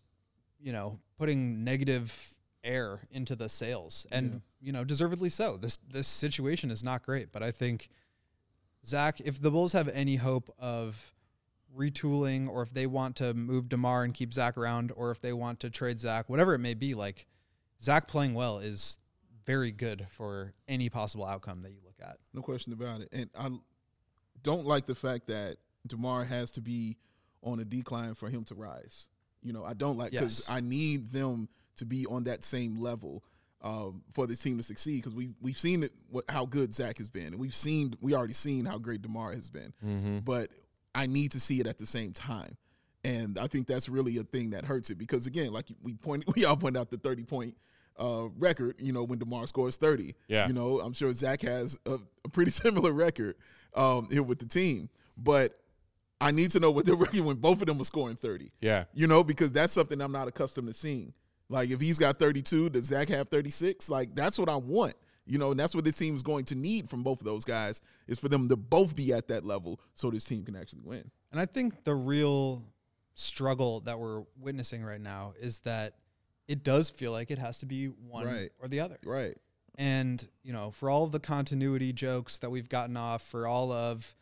putting negative air into the sails. And, deservedly so. This situation is not great. But I think, Zach, if the Bulls have any hope of retooling, or if they want to move DeMar and keep Zach around, or if they want to trade Zach, whatever it may be, like, Zach playing well is very good for any possible outcome that you look at. No question about it. And I don't like the fact that DeMar has to be on a decline for him to rise. I don't like, because I need them to be on that same level for this team to succeed, because we've seen how good Zach has been, and we already seen how great DeMar has been. But I need to see it at the same time, and I think that's really a thing that hurts it, because again, like we all point out the 30-point record. When DeMar scores 30, I'm sure Zach has a pretty similar record here with the team, but I need to know what they're record when both of them are scoring 30. Yeah, because that's something I'm not accustomed to seeing. Like, if he's got 32, does Zach have 36? Like, that's what I want, and that's what this team is going to need from both of those guys, is for them to both be at that level so this team can actually win. And I think the real struggle that we're witnessing right now is that it does feel like it has to be one or the other. Right. And, for all of the continuity jokes that we've gotten off, for all of,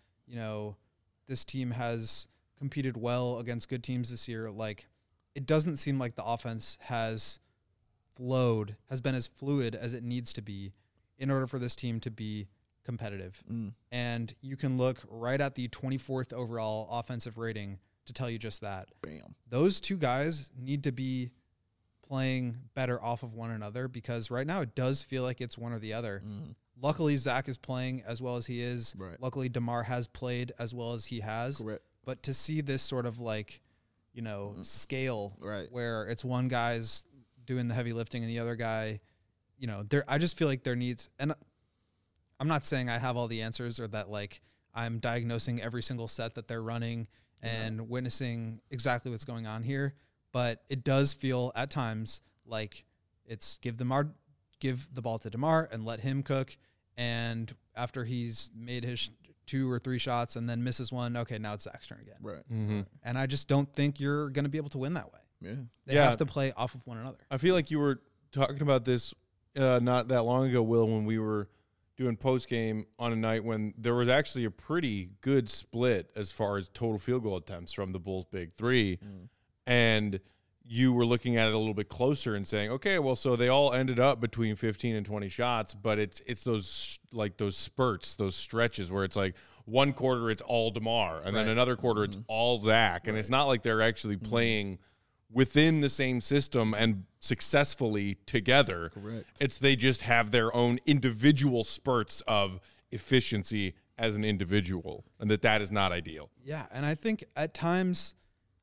this team has competed well against good teams this year, like, it doesn't seem like the offense has been as fluid as it needs to be in order for this team to be competitive. And you can look right at the 24th overall offensive rating to tell you just that. Bam. Those two guys need to be playing better off of one another, because right now it does feel like it's one or the other. Luckily, Zach is playing as well as he is. Right. Luckily, DeMar has played as well as he has. Correct. But to see this sort of like, scale where it's one guy's doing the heavy lifting and the other guy, I just feel like there needs, and I'm not saying I have all the answers or that like I'm diagnosing every single set that they're running and witnessing exactly what's going on here, but it does feel at times like it's give the ball to DeMar and let him cook, and after he's made his 2 or 3 shots and then misses one, okay, now it's Zach's turn again. Right. And I just don't think you're going to be able to win that way. Yeah. They have to play off of one another. I feel like you were talking about this not that long ago, Will, when we were doing post game on a night when there was actually a pretty good split as far as total field goal attempts from the Bulls' big three, and you were looking at it a little bit closer and saying, okay, well, so they all ended up between 15 and 20 shots, but it's those spurts, those stretches where it's like one quarter it's all DeMar, and then another quarter it's all Zach, and it's not like they're actually playing within the same system and successfully together. Correct. It's they just have their own individual spurts of efficiency as an individual, and that is not ideal. Yeah, and I think at times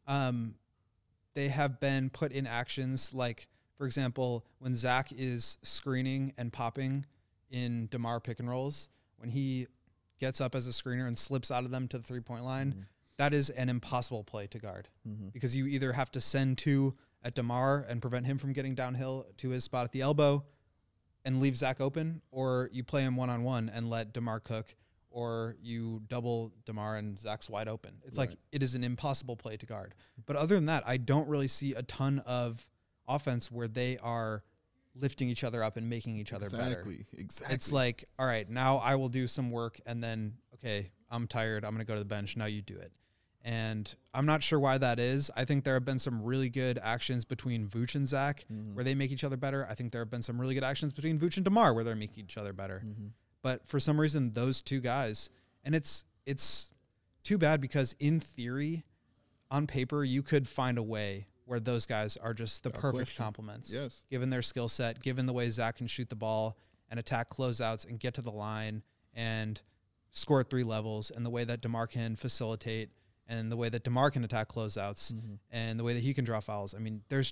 they have been put in actions like, for example, when Zach is screening and popping in DeMar pick and rolls, when he gets up as a screener and slips out of them to the 3-point line, that is an impossible play to guard because you either have to send 2 at DeMar and prevent him from getting downhill to his spot at the elbow and leave Zach open, or you play him one-on-one and let DeMar cook, or you double DeMar and Zach's wide open. It's like it is an impossible play to guard. But other than that, I don't really see a ton of offense where they are lifting each other up and making each other better. Exactly. It's like, all right, now I will do some work and then, okay, I'm tired. I'm going to go to the bench. Now you do it. And I'm not sure why that is. I think there have been some really good actions between Vooch and Zach where they make each other better. I think there have been some really good actions between Vooch and DeMar where they're making each other better. But for some reason, those 2 guys, and it's too bad because in theory, on paper, you could find a way where those guys are just the perfect complements. Yes. Given their skill set, given the way Zach can shoot the ball and attack closeouts and get to the line and score at 3 levels, and the way that DeMar can facilitate, and the way that DeMar can attack closeouts, and the way that he can draw fouls. I mean, there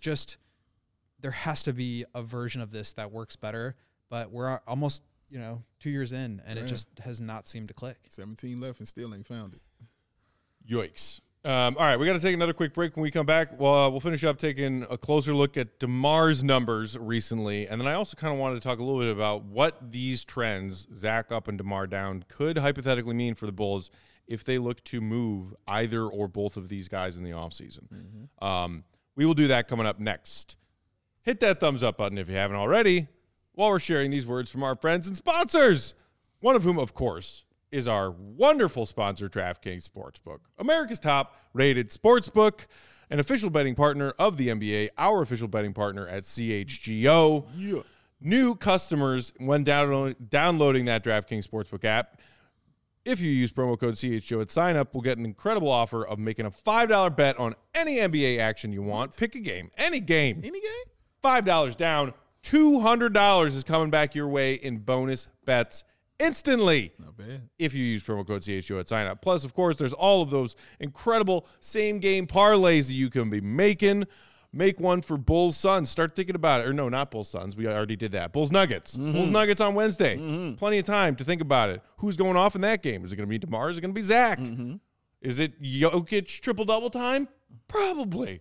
has to be a version of this that works better, but we're almost, 2 years in, and it just has not seemed to click. 17 left and still ain't found it. Yikes. All right, we got to take another quick break. When we come back, we'll finish up taking a closer look at DeMar's numbers recently, and then I also kind of wanted to talk a little bit about what these trends, Zach up and DeMar down, could hypothetically mean for the Bulls if they look to move either or both of these guys in the offseason. We will do that coming up next. Hit that thumbs up button if you haven't already while we're sharing these words from our friends and sponsors, one of whom, of course, is our wonderful sponsor, DraftKings Sportsbook, America's top-rated sportsbook, an official betting partner of the NBA, our official betting partner at CHGO. Yeah. New customers, when downloading that DraftKings Sportsbook app, if you use promo code CHGO at sign-up, we'll get an incredible offer of making a $5 bet on any NBA action you want. Pick a game, any game. Any game? $5 down, $200 is coming back your way in bonus bets instantly. Not bad. If you use promo code CHGO at sign up. Plus, of course, there's all of those incredible same-game parlays that you can be making. Make one for Bulls Suns. Start thinking about it. Or no, not Bulls Suns. We already did that. Bulls Nuggets. Bulls Nuggets on Wednesday. Plenty of time to think about it. Who's going off in that game? Is it going to be DeMar? Is it going to be Zach? Is it Jokic triple-double time? Probably.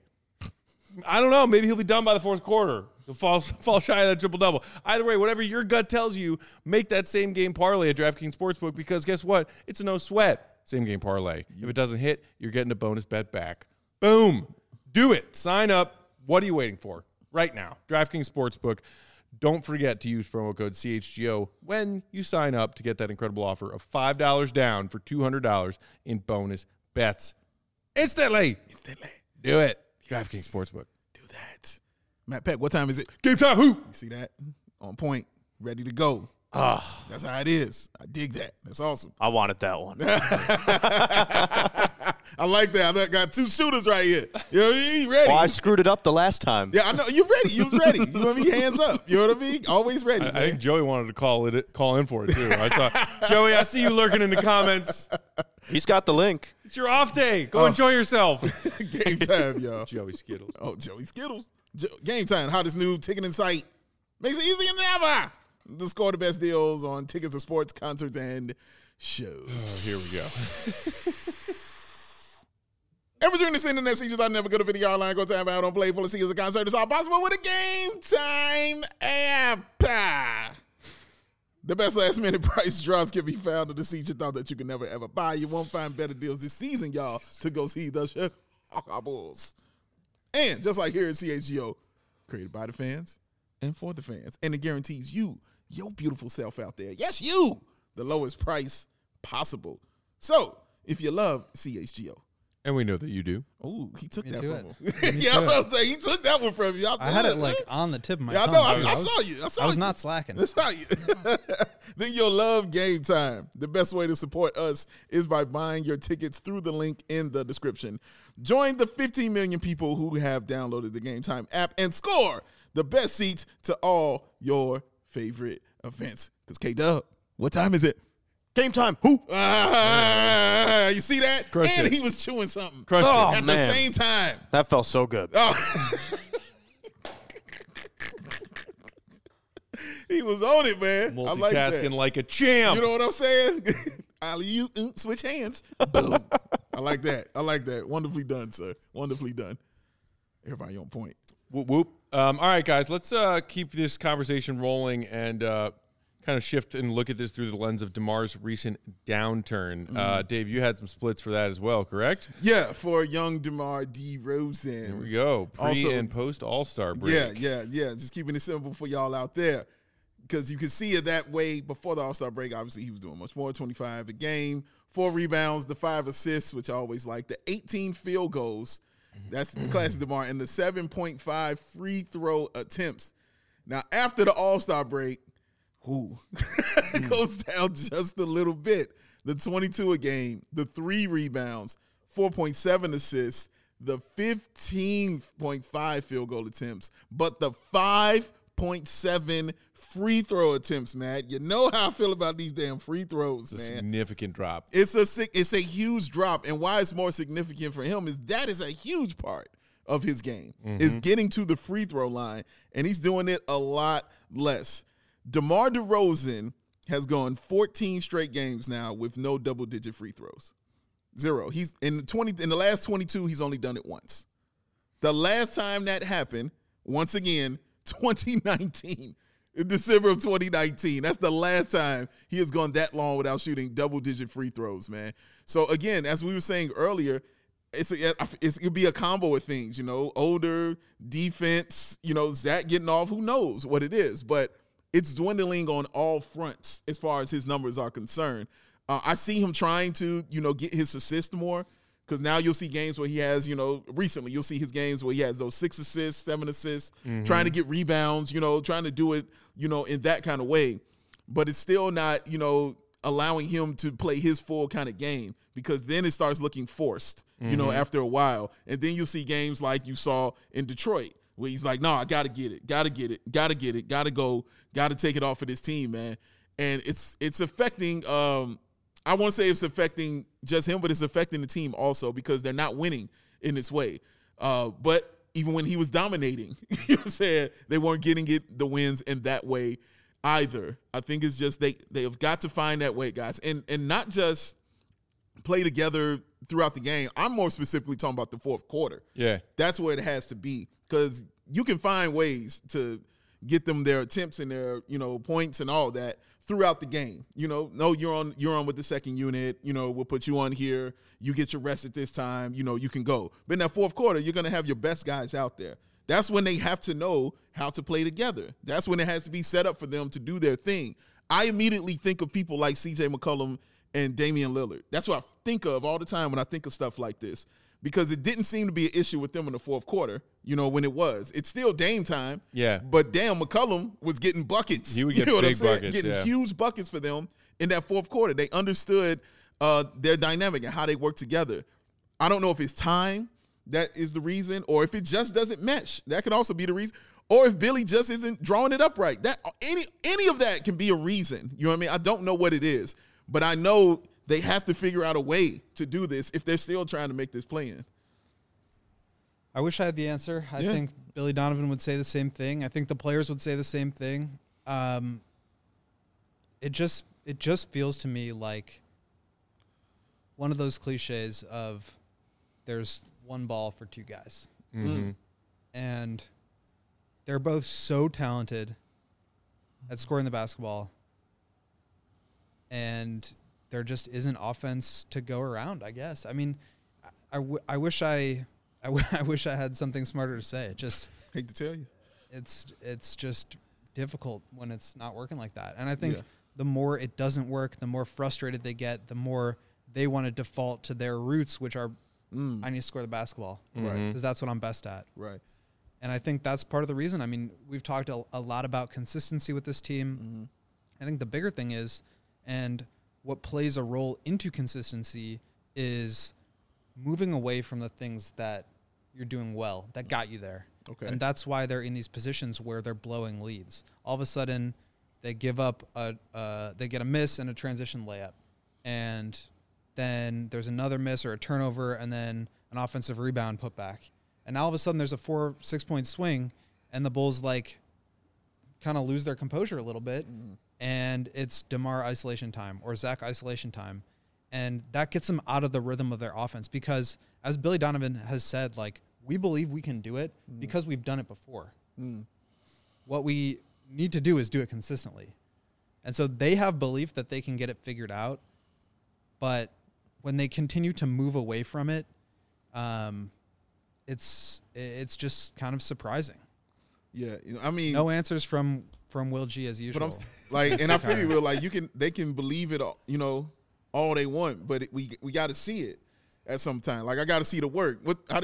I don't know. Maybe he'll be done by the fourth quarter. He'll fall shy of that triple-double. Either way, whatever your gut tells you, make that same-game parlay at DraftKings Sportsbook because guess what? It's a no-sweat same-game parlay. If it doesn't hit, you're getting a bonus bet back. Boom. Do it. Sign up. What are you waiting for? Right now. DraftKings Sportsbook. Don't forget to use promo code CHGO when you sign up to get that incredible offer of $5 down for $200 in bonus bets. Instantly. Do it. DraftKings Sportsbook. Do that. Matt Peck, what time is it? Game time. Who? You see that? On point. Ready to go. That's how it is. I dig that. That's awesome. I wanted that one. I like that. I got 2 shooters right here. You know what I mean? Ready. Well, I screwed it up the last time. Yeah, I know. You're ready. You was ready. You know what I mean? Hands up. You know what I mean? Always ready, I think Joey wanted to call in for it, too. I saw Joey, I see you lurking in the comments. He's got the link. It's your off day. Go enjoy yourself. Game time, y'all. Joey Skittles. Oh, Joey Skittles. Game time. Hottest new ticketing site. Makes it easier than ever. To score the best deals on tickets to sports, concerts, and shows. Oh, here we go. Ever during this internet season, I never go to video online, go time out on play full of seasons of concert. It's all possible with a Game Time app. The best last minute price drops can be found in the seats you thought that you could never ever buy. You won't find better deals this season, y'all, to go see the Chicago Bulls. And just like here at CHGO, created by the fans and for the fans. And it guarantees you, your beautiful self out there, yes, you, the lowest price possible. So if you love CHGO, And we know that you do. Oh, he took that Into from him. Yeah, I was going to say, he took that one from you. I had it like on the tip of my Yeah, I tongue. know. I saw you. I was not slacking. I saw you. Then you'll love Game Time. The best way to support us is by buying your tickets through the link in the description. Join the 15 million people who have downloaded the Game Time app and score the best seats to all your favorite events. Because K-Dub, what time is it? Game time. Who? You see that? Crushed And it. he was chewing something Crushed Oh, it. at man. the same time. That felt so good. Oh. He was on it, man. I like that. Multitasking like a champ. You know what I'm saying? Alley-oop, switch hands. Boom. I like that. I like that. Wonderfully done, sir. Wonderfully done. Everybody on point. Whoop, whoop. All right, guys, let's keep this conversation rolling and kind of shift and look at this through the lens of DeMar's recent downturn. Dave, you had some splits for that as well, correct? Yeah, for young DeMar DeRozan. There we go. And post All-Star break. Yeah. Just keeping it simple for y'all out there. Because you can see it that way before the All-Star break. Obviously, he was doing much more, 25 a game, 4 rebounds, the 5 assists, which I always like, the 18 field goals. That's the classic DeMar, and the 7.5 free throw attempts. Now, after the All-Star break, it goes down just a little bit. The 22 a game, the 3 rebounds, 4.7 assists, the 15.5 field goal attempts, but the 5.7 free throw attempts, Matt. You know how I feel about these damn free throws, man. Significant drop. It's a huge drop, and why it's more significant for him is that is a huge part of his game, is getting to the free throw line, and he's doing it a lot less. DeMar DeRozan has gone 14 straight games now with no double-digit free throws. 0. He's in the last 22, he's only done it once. The last time that happened, once again, 2019. In December of 2019. That's the last time he has gone that long without shooting double-digit free throws, man. So, again, as we were saying earlier, it could be a combo of things, older, defense, Zach getting off, who knows what it is. But it's dwindling on all fronts as far as his numbers are concerned. I see him trying to, get his assist more, because now you'll see games where he has, recently you'll see his games where he has those 6 assists, 7 assists, trying to get rebounds, trying to do it, in that kind of way. But it's still not, allowing him to play his full kind of game, because then it starts looking forced, after a while. And then you'll see games like you saw in Detroit, where he's like, no, I got to get it, got to go, got to take it off of this team, man. And it's affecting I won't say it's affecting just him, but it's affecting the team also, because they're not winning in this way. But even when he was dominating, you know what I'm saying, they weren't getting the wins in that way either. I think it's just they have got to find that way, guys, and not just play together throughout the game. I'm more specifically talking about the fourth quarter. Yeah, that's where it has to be, because you can find ways to get them their attempts and their points and all that throughout the game. No, you're on with the second unit, we'll put you on here, you get your rest at this time, you can go. But in that fourth quarter, you're going to have your best guys out there. That's when they have to know how to play together. That's when it has to be set up for them to do their thing. I immediately think of people like CJ McCollum and Damian Lillard. That's what I think of all the time when I think of stuff like this, because it didn't seem to be an issue with them in the fourth quarter, when it was. It's still Dame time. Yeah. But damn, McCollum was getting buckets. He would get big buckets. Getting huge buckets for them in that fourth quarter. They understood their dynamic and how they work together. I don't know if it's time that is the reason, or if it just doesn't mesh. That could also be the reason. Or if Billy just isn't drawing it up right. That any of that can be a reason. You know what I mean? I don't know what it is, but I know they have to figure out a way to do this if they're still trying to make this play in. I wish I had the answer. I think Billy Donovan would say the same thing. I think the players would say the same thing. It just feels to me like one of those cliches of there's one ball for two guys. Mm-hmm. And they're both so talented at scoring the basketball, and there just isn't offense to go around, I guess. I mean, I wish I had something smarter to say. It just hate to tell you, it's just difficult when it's not working like that. And I think the more it doesn't work, the more frustrated they get, the more they want to default to their roots, which are I need to score the basketball, right? Because that's what I'm best at, right? And I think that's part of the reason. I mean, we've talked a lot about consistency with this team. Mm-hmm. I think the bigger thing is, and what plays a role into consistency is moving away from the things that you're doing well, that got you there. Okay. And that's why they're in these positions where they're blowing leads. All of a sudden, they give up they get a miss and a transition layup. And then there's another miss or a turnover and then an offensive rebound put back. And now all of a sudden there's a 4-6 point swing and the Bulls kind of lose their composure a little bit. Mm. And it's DeMar isolation time or Zach isolation time. And that gets them out of the rhythm of their offense because, as Billy Donovan has said, like, we believe we can do it because we've done it before. What we need to do is do it consistently. And so they have belief that they can get it figured out. But when they continue to move away from it, it's just kind of surprising. Yeah, I mean, no answers from Will G as usual. But and I feel you, Will. Like they can believe it, all they want, but we got to see it at some time. Like I got to see the work.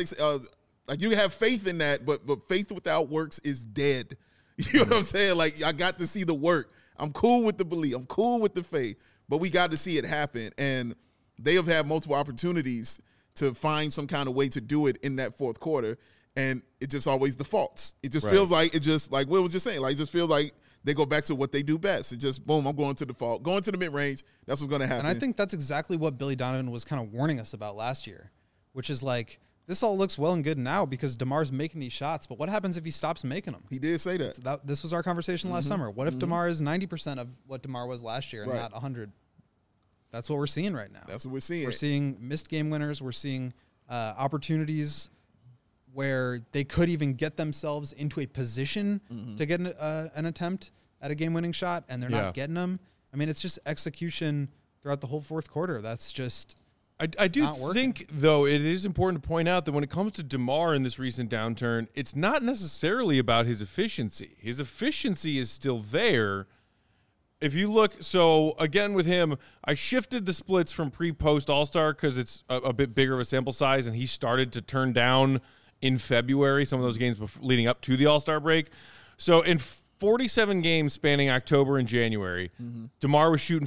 Like you have faith in that, but faith without works is dead. You know what I'm saying? Like I got to see the work. I'm cool with the belief. I'm cool with the faith, but we got to see it happen. And they have had multiple opportunities to find some kind of way to do it in that fourth quarter, and it just always defaults. It just feels like like Will was just saying, like it just feels like they go back to what they do best. It just, boom, I'm going to default. Going to the mid-range, that's what's going to happen. And I think that's exactly what Billy Donovan was kind of warning us about last year, which is like, this all looks well and good now because DeMar's making these shots, but what happens if he stops making them? He did say that. So this was our conversation last summer. What if DeMar is 90% of what DeMar was last year and not 100? That's what we're seeing right now. That's what we're seeing. We're seeing missed game winners. We're seeing opportunities where they could even get themselves into a position to get an attempt at a game-winning shot, and they're not getting them. I mean, it's just execution throughout the whole fourth quarter. That's just I do think, though, it is important to point out that when it comes to DeMar in this recent downturn, it's not necessarily about his efficiency. His efficiency is still there. If you look, so again with him, I shifted the splits from pre-post All-Star because it's a bit bigger of a sample size, and he started to turn down in February some of those games leading up to the All-Star break. So in 47 games spanning October and January, DeMar was shooting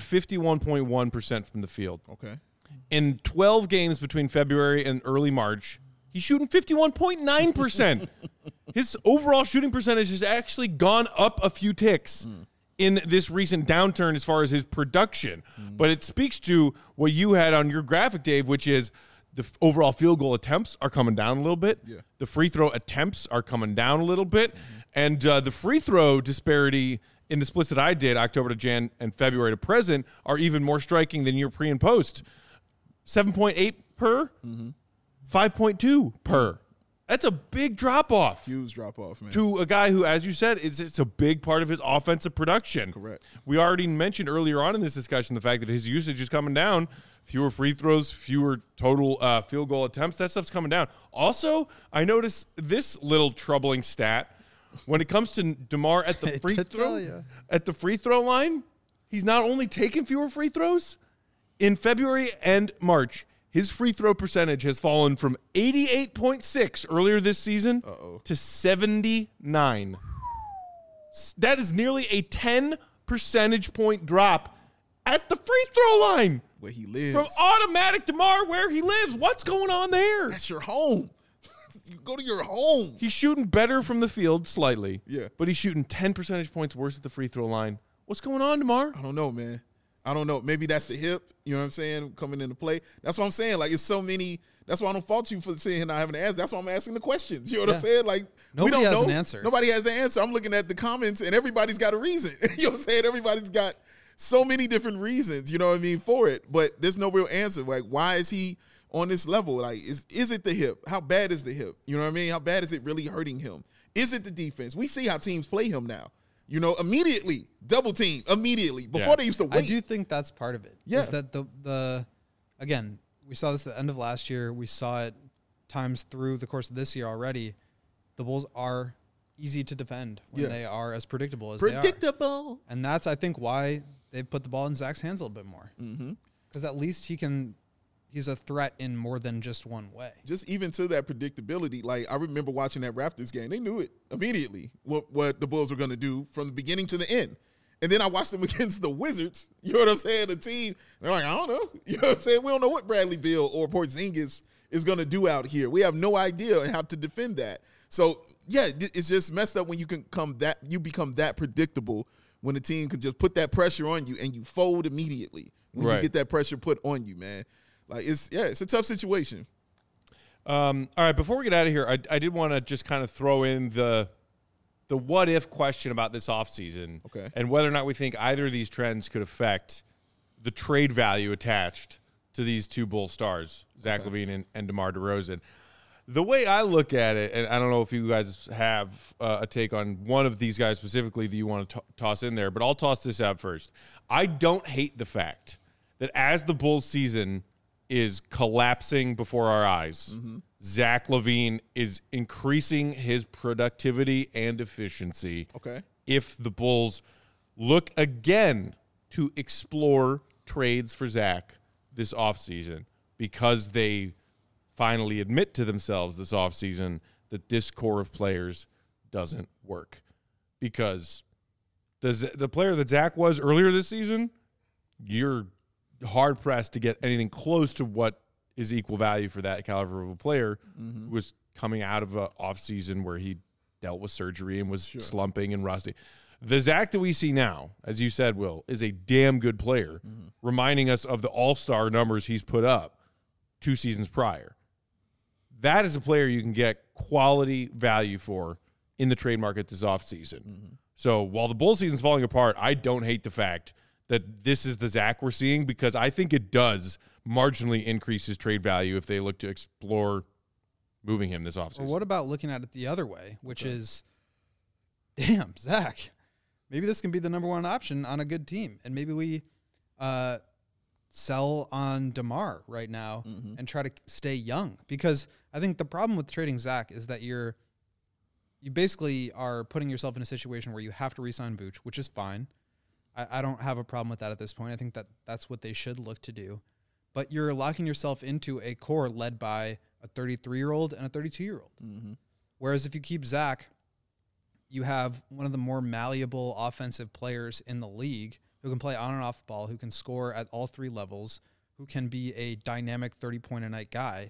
51.1% from the field. Okay. In 12 games between February and early March, he's shooting 51.9%. His overall shooting percentage has actually gone up a few ticks in this recent downturn as far as his production. But it speaks to what you had on your graphic, Dave, which is the overall field goal attempts are coming down a little bit. Yeah. The free throw attempts are coming down a little bit. And the free throw disparity in the splits that I did, October to Jan and February to present, are even more striking than your pre and post. 7.8 per, 5.2 per. That's a big drop-off. Huge drop-off, man. To a guy who, as you said, it's a big part of his offensive production. Correct. We already mentioned earlier on in this discussion the fact that his usage is coming down. Fewer free throws, fewer total field goal attempts. That stuff's coming down. Also, I noticed this little troubling stat. When it comes to DeMar at the free throw line, he's not only taking fewer free throws. In February and March, his free throw percentage has fallen from 88.6 earlier this season to 79. That is nearly a 10 percentage point drop at the free throw line. Where he lives. From automatic DeMar, where he lives. What's going on there? That's your home. You go to your home. He's shooting better from the field slightly. Yeah. But he's shooting 10 percentage points worse at the free throw line. What's going on, DeMar? I don't know, man. I don't know. Maybe that's the hip, you know what I'm saying, coming into play. That's what I'm saying. Like, it's so many. That's why I don't fault you for saying not having an answer. That's why I'm asking the questions. You know what I'm saying? Like, nobody we don't has know. an answer. Nobody has the answer. I'm looking at the comments, and everybody's got a reason. You know what I'm saying? Everybody's got so many different reasons, you know what I mean, for it. But there's no real answer. Like, why is he on this level? Like, is it the hip? How bad is the hip? You know what I mean? How bad is it really hurting him? Is it the defense? We see how teams play him now. You know, immediately, double team, immediately. Before they used to wait. I do think that's part of it. Yeah. Is that the again, we saw this at the end of last year. We saw it times through the course of this year already. The Bulls are easy to defend when they are as predictable as they are. And that's, I think, why they've put the ball in Zach's hands a little bit more. Because at least he's a threat in more than just one way. Just even to that predictability, like I remember watching that Raptors game. They knew it immediately what the Bulls were going to do from the beginning to the end. And then I watched them against the Wizards. You know what I'm saying? The team, they're like, I don't know. You know what I'm saying? We don't know what Bradley Beal or Porzingis is going to do out here. We have no idea how to defend that. So, yeah, it's just messed up when you become that predictable when the team can just put that pressure on you and you fold immediately when you get that pressure put on you, man. Like, it's a tough situation. All right, before we get out of here, I did want to just kind of throw in the what-if question about this offseason and whether or not we think either of these trends could affect the trade value attached to these two Bull stars, Zach LaVine and DeMar DeRozan. The way I look at it, and I don't know if you guys have a take on one of these guys specifically that you want to toss in there, but I'll toss this out first. I don't hate the fact that as the Bulls season is collapsing before our eyes, Zach LaVine is increasing his productivity and efficiency. Okay. If the Bulls look again to explore trades for Zach this offseason, because they finally admit to themselves this offseason that this core of players doesn't work. Because the player that Zach was earlier this season, you're hard-pressed to get anything close to what is equal value for that caliber of a player who was coming out of an offseason where he dealt with surgery and was slumping and rusty. The Zach that we see now, as you said, Will, is a damn good player, reminding us of the all-star numbers he's put up 2 seasons prior. That is a player you can get quality value for in the trade market this offseason. So while the Bulls season's falling apart, I don't hate the fact that this is the Zach we're seeing, because I think it does marginally increase his trade value if they look to explore moving him this offseason. Or what about looking at it the other way, which is, damn, Zach, maybe this can be the number one option on a good team. And maybe we sell on DeMar right now and try to stay young. Because I think the problem with trading Zach is that you basically are putting yourself in a situation where you have to re-sign Vooch, which is fine. I don't have a problem with that at this point. I think that that's what they should look to do. But you're locking yourself into a core led by a 33-year-old and a 32-year-old. Whereas if you keep Zach, you have one of the more malleable offensive players in the league who can play on and off the ball, who can score at all 3 levels, who can be a dynamic 30-point-a-night guy.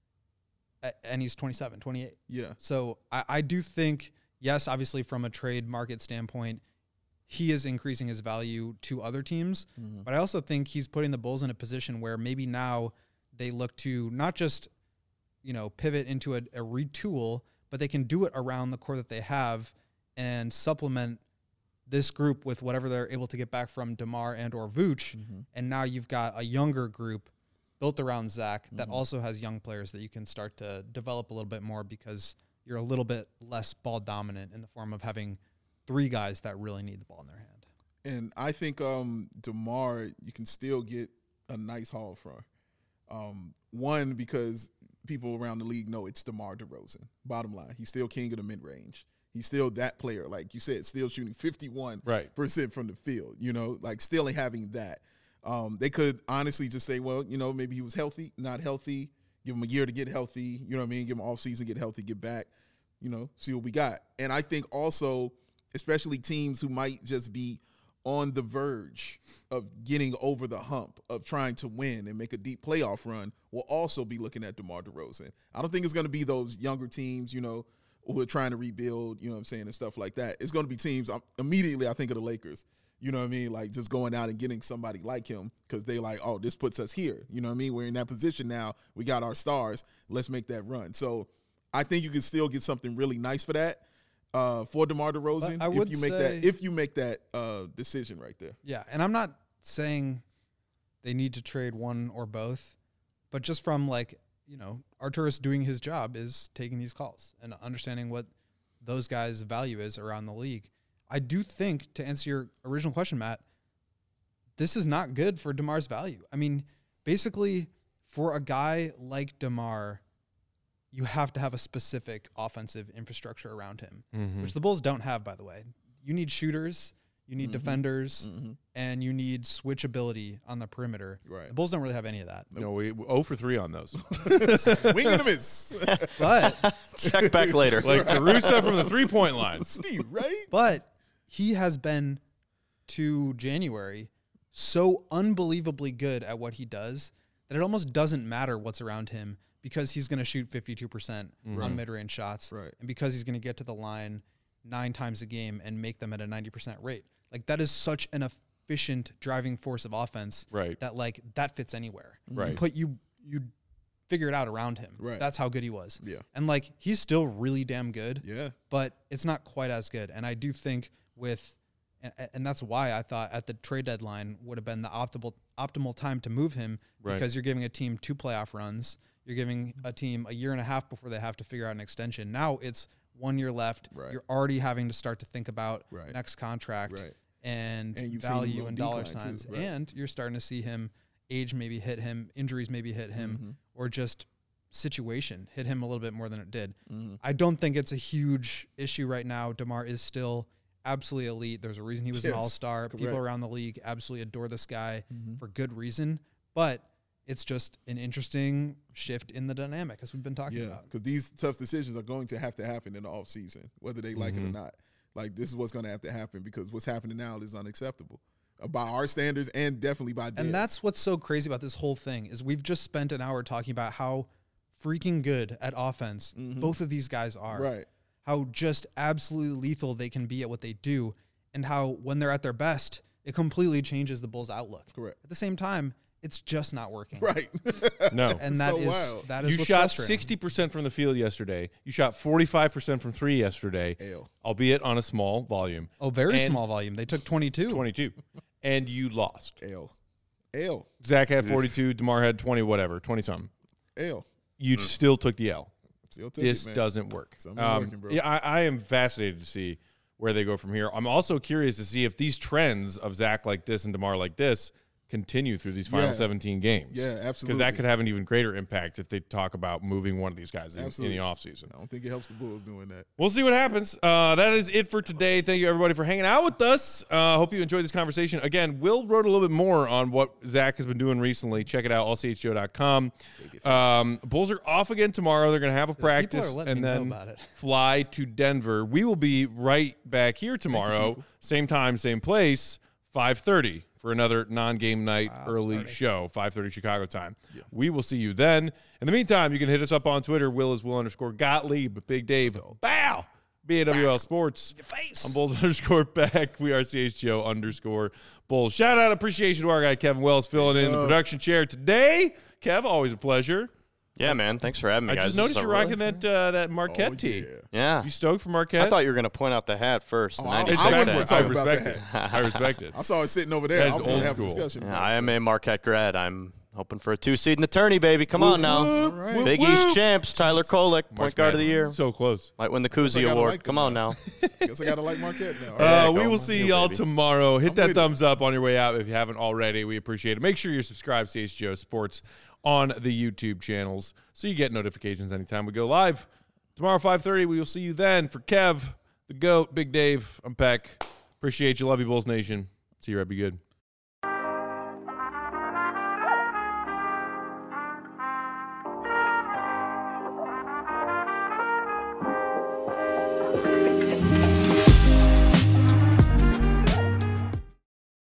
And he's 27, 28. Yeah. So I do think, yes, obviously from a trade market standpoint, he is increasing his value to other teams. But I also think he's putting the Bulls in a position where maybe now they look to not just, pivot into a retool, but they can do it around the core that they have and supplement this group with whatever they're able to get back from DeMar and or Vooch. And now you've got a younger group built around Zach that also has young players that you can start to develop a little bit more, because you're a little bit less ball dominant in the form of having 3 guys that really need the ball in their hand. And I think DeMar, you can still get a nice haul from. One, because people around the league know it's DeMar DeRozan. Bottom line, he's still king of the mid-range. He's still that player, like you said, still shooting 51% from the field, still having that. They could honestly just say, well, maybe he was healthy, not healthy, give him a year to get healthy, give him an off-season, get healthy, get back, see what we got. And I think also, especially teams who might just be on the verge of getting over the hump of trying to win and make a deep playoff run, will also be looking at DeMar DeRozan. I don't think it's going to be those younger teams, who are trying to rebuild, and stuff like that. It's going to be teams, immediately I think of the Lakers, like just going out and getting somebody like him, because they like, oh, this puts us here. We're in that position now. We got our stars. Let's make that run. So I think you can still get something really nice for that. For DeMar DeRozan, if you make that decision right there. Yeah, and I'm not saying they need to trade one or both, but just from Arturas doing his job is taking these calls and understanding what those guys' value is around the league. I do think, to answer your original question, Matt, this is not good for DeMar's value. I mean, basically, for a guy like DeMar, you have to have a specific offensive infrastructure around him, which the Bulls don't have, by the way. You need shooters, you need defenders, and you need switchability on the perimeter. Right. The Bulls don't really have any of that. No, we 0 for 3 on those. Wing and a miss. But check back later. Like Caruso from the 3-point line. Steve, right? But he has been, to January, so unbelievably good at what he does that it almost doesn't matter what's around him, because he's going to shoot 52% on mid-range shots. Right. And because he's going to get to the line 9 times a game and make them at a 90% rate. Like, that is such an efficient driving force of offense that, that fits anywhere. Right. You figure it out around him. Right. That's how good he was. Yeah. And, he's still really damn good. Yeah. But it's not quite as good. And I do think and that's why I thought at the trade deadline would have been the optimal time to move him Right. because you're giving a team 2 playoff runs. You're giving a team a year and a half before they have to figure out an extension. Now it's 1 year left. Right. You're already having to start to think about Right. next contract Right. and you've seen him value on and dollar decline, signs. too. Right. And you're starting to see him age maybe hit him, injuries maybe hit him, or just situation hit him a little bit more than it did. I don't think it's a huge issue right now. DeMar is still absolutely elite. There's a reason he was an Yes, all-star. People correct. around the league absolutely adore this guy for good reason. But it's just an interesting shift in the dynamic, as we've been talking Yeah, about. because these tough decisions are going to have to happen in the offseason, whether they like it or not. Like, this is what's going to have to happen because what's happening now is unacceptable by our standards and definitely by theirs. And that's what's so crazy about this whole thing is we've just spent an hour talking about how freaking good at offense both of these guys are. right. How just absolutely lethal they can be at what they do, and how when they're at their best, it completely changes the Bulls' outlook. Correct. At the same time, it's just not working. Right. No. And that So is wild. that is You what's shot frustrating. 60% from the field yesterday. You shot 45% from 3 yesterday, L. albeit on a small volume. Oh, very And small volume. They took 22. 22. And you lost. L. Zach had 42. DeMar had 20, whatever, 20-something. L. You still took the L. Still took This it, man. doesn't work. Something working, bro. Yeah, I am fascinated to see where they go from here. I'm also curious to see if these trends of Zach like this and DeMar like this continue through these final Yeah. 17 games. Yeah, Because absolutely. that could have an even greater impact if they talk about moving one of these guys in Absolutely. the offseason. I don't think it helps the Bulls doing that. We'll see what happens. That is it for today. Thank you, everybody, for hanging out with us. Hope you enjoyed this conversation. Again, Will wrote a little bit more on what Zach has been doing recently. Check it out, allchgo.com. Bulls are off again tomorrow. They're going to have a practice are letting and me know then about it. fly to Denver. We will be right back here tomorrow, same time, same place, 5:30 for another non-game night early show, 5:30 Chicago time. We will see you then. In the meantime, you can hit us up on Twitter. Will is Will_Gottlieb. Big Dave. Bow. BAWL Sports. I'm Bulls_back. We are CHGO_Bulls. Shout out appreciation to our guy Kevin Wells filling in the production chair today. Kev, always a pleasure. Yeah, man. Thanks for having me, I guys. just This noticed is you're really- rocking that Marquette tee. Yeah. You stoked for Marquette? I thought you were going to point out the hat first. The I 96 wanted hat. to talk about respect that. it. I respect it. I saw it sitting over there. That's I was going old to have a school. discussion. Yeah, about I it. am a Marquette grad. I'm hoping for a 2-seed in the tourney, baby. Come on now. All right. Big East champs, Tyler Kolek, point March guard of the Madness. year. So close. Might win the I Koozie gotta Award. like Come them on now. Guess I got to like Marquette now. All right. Yeah, We go. will see You, y'all baby. tomorrow. Hit I'm that with thumbs up on your way out if you haven't already. We appreciate it. Make sure you're subscribed to CHGO Sports on the YouTube channels so you get notifications anytime we go live. Tomorrow, 5:30, we will see you then. For Kev, the GOAT, Big Dave, I'm Peck. Appreciate you. Love you, Bulls Nation. See you right. Be good.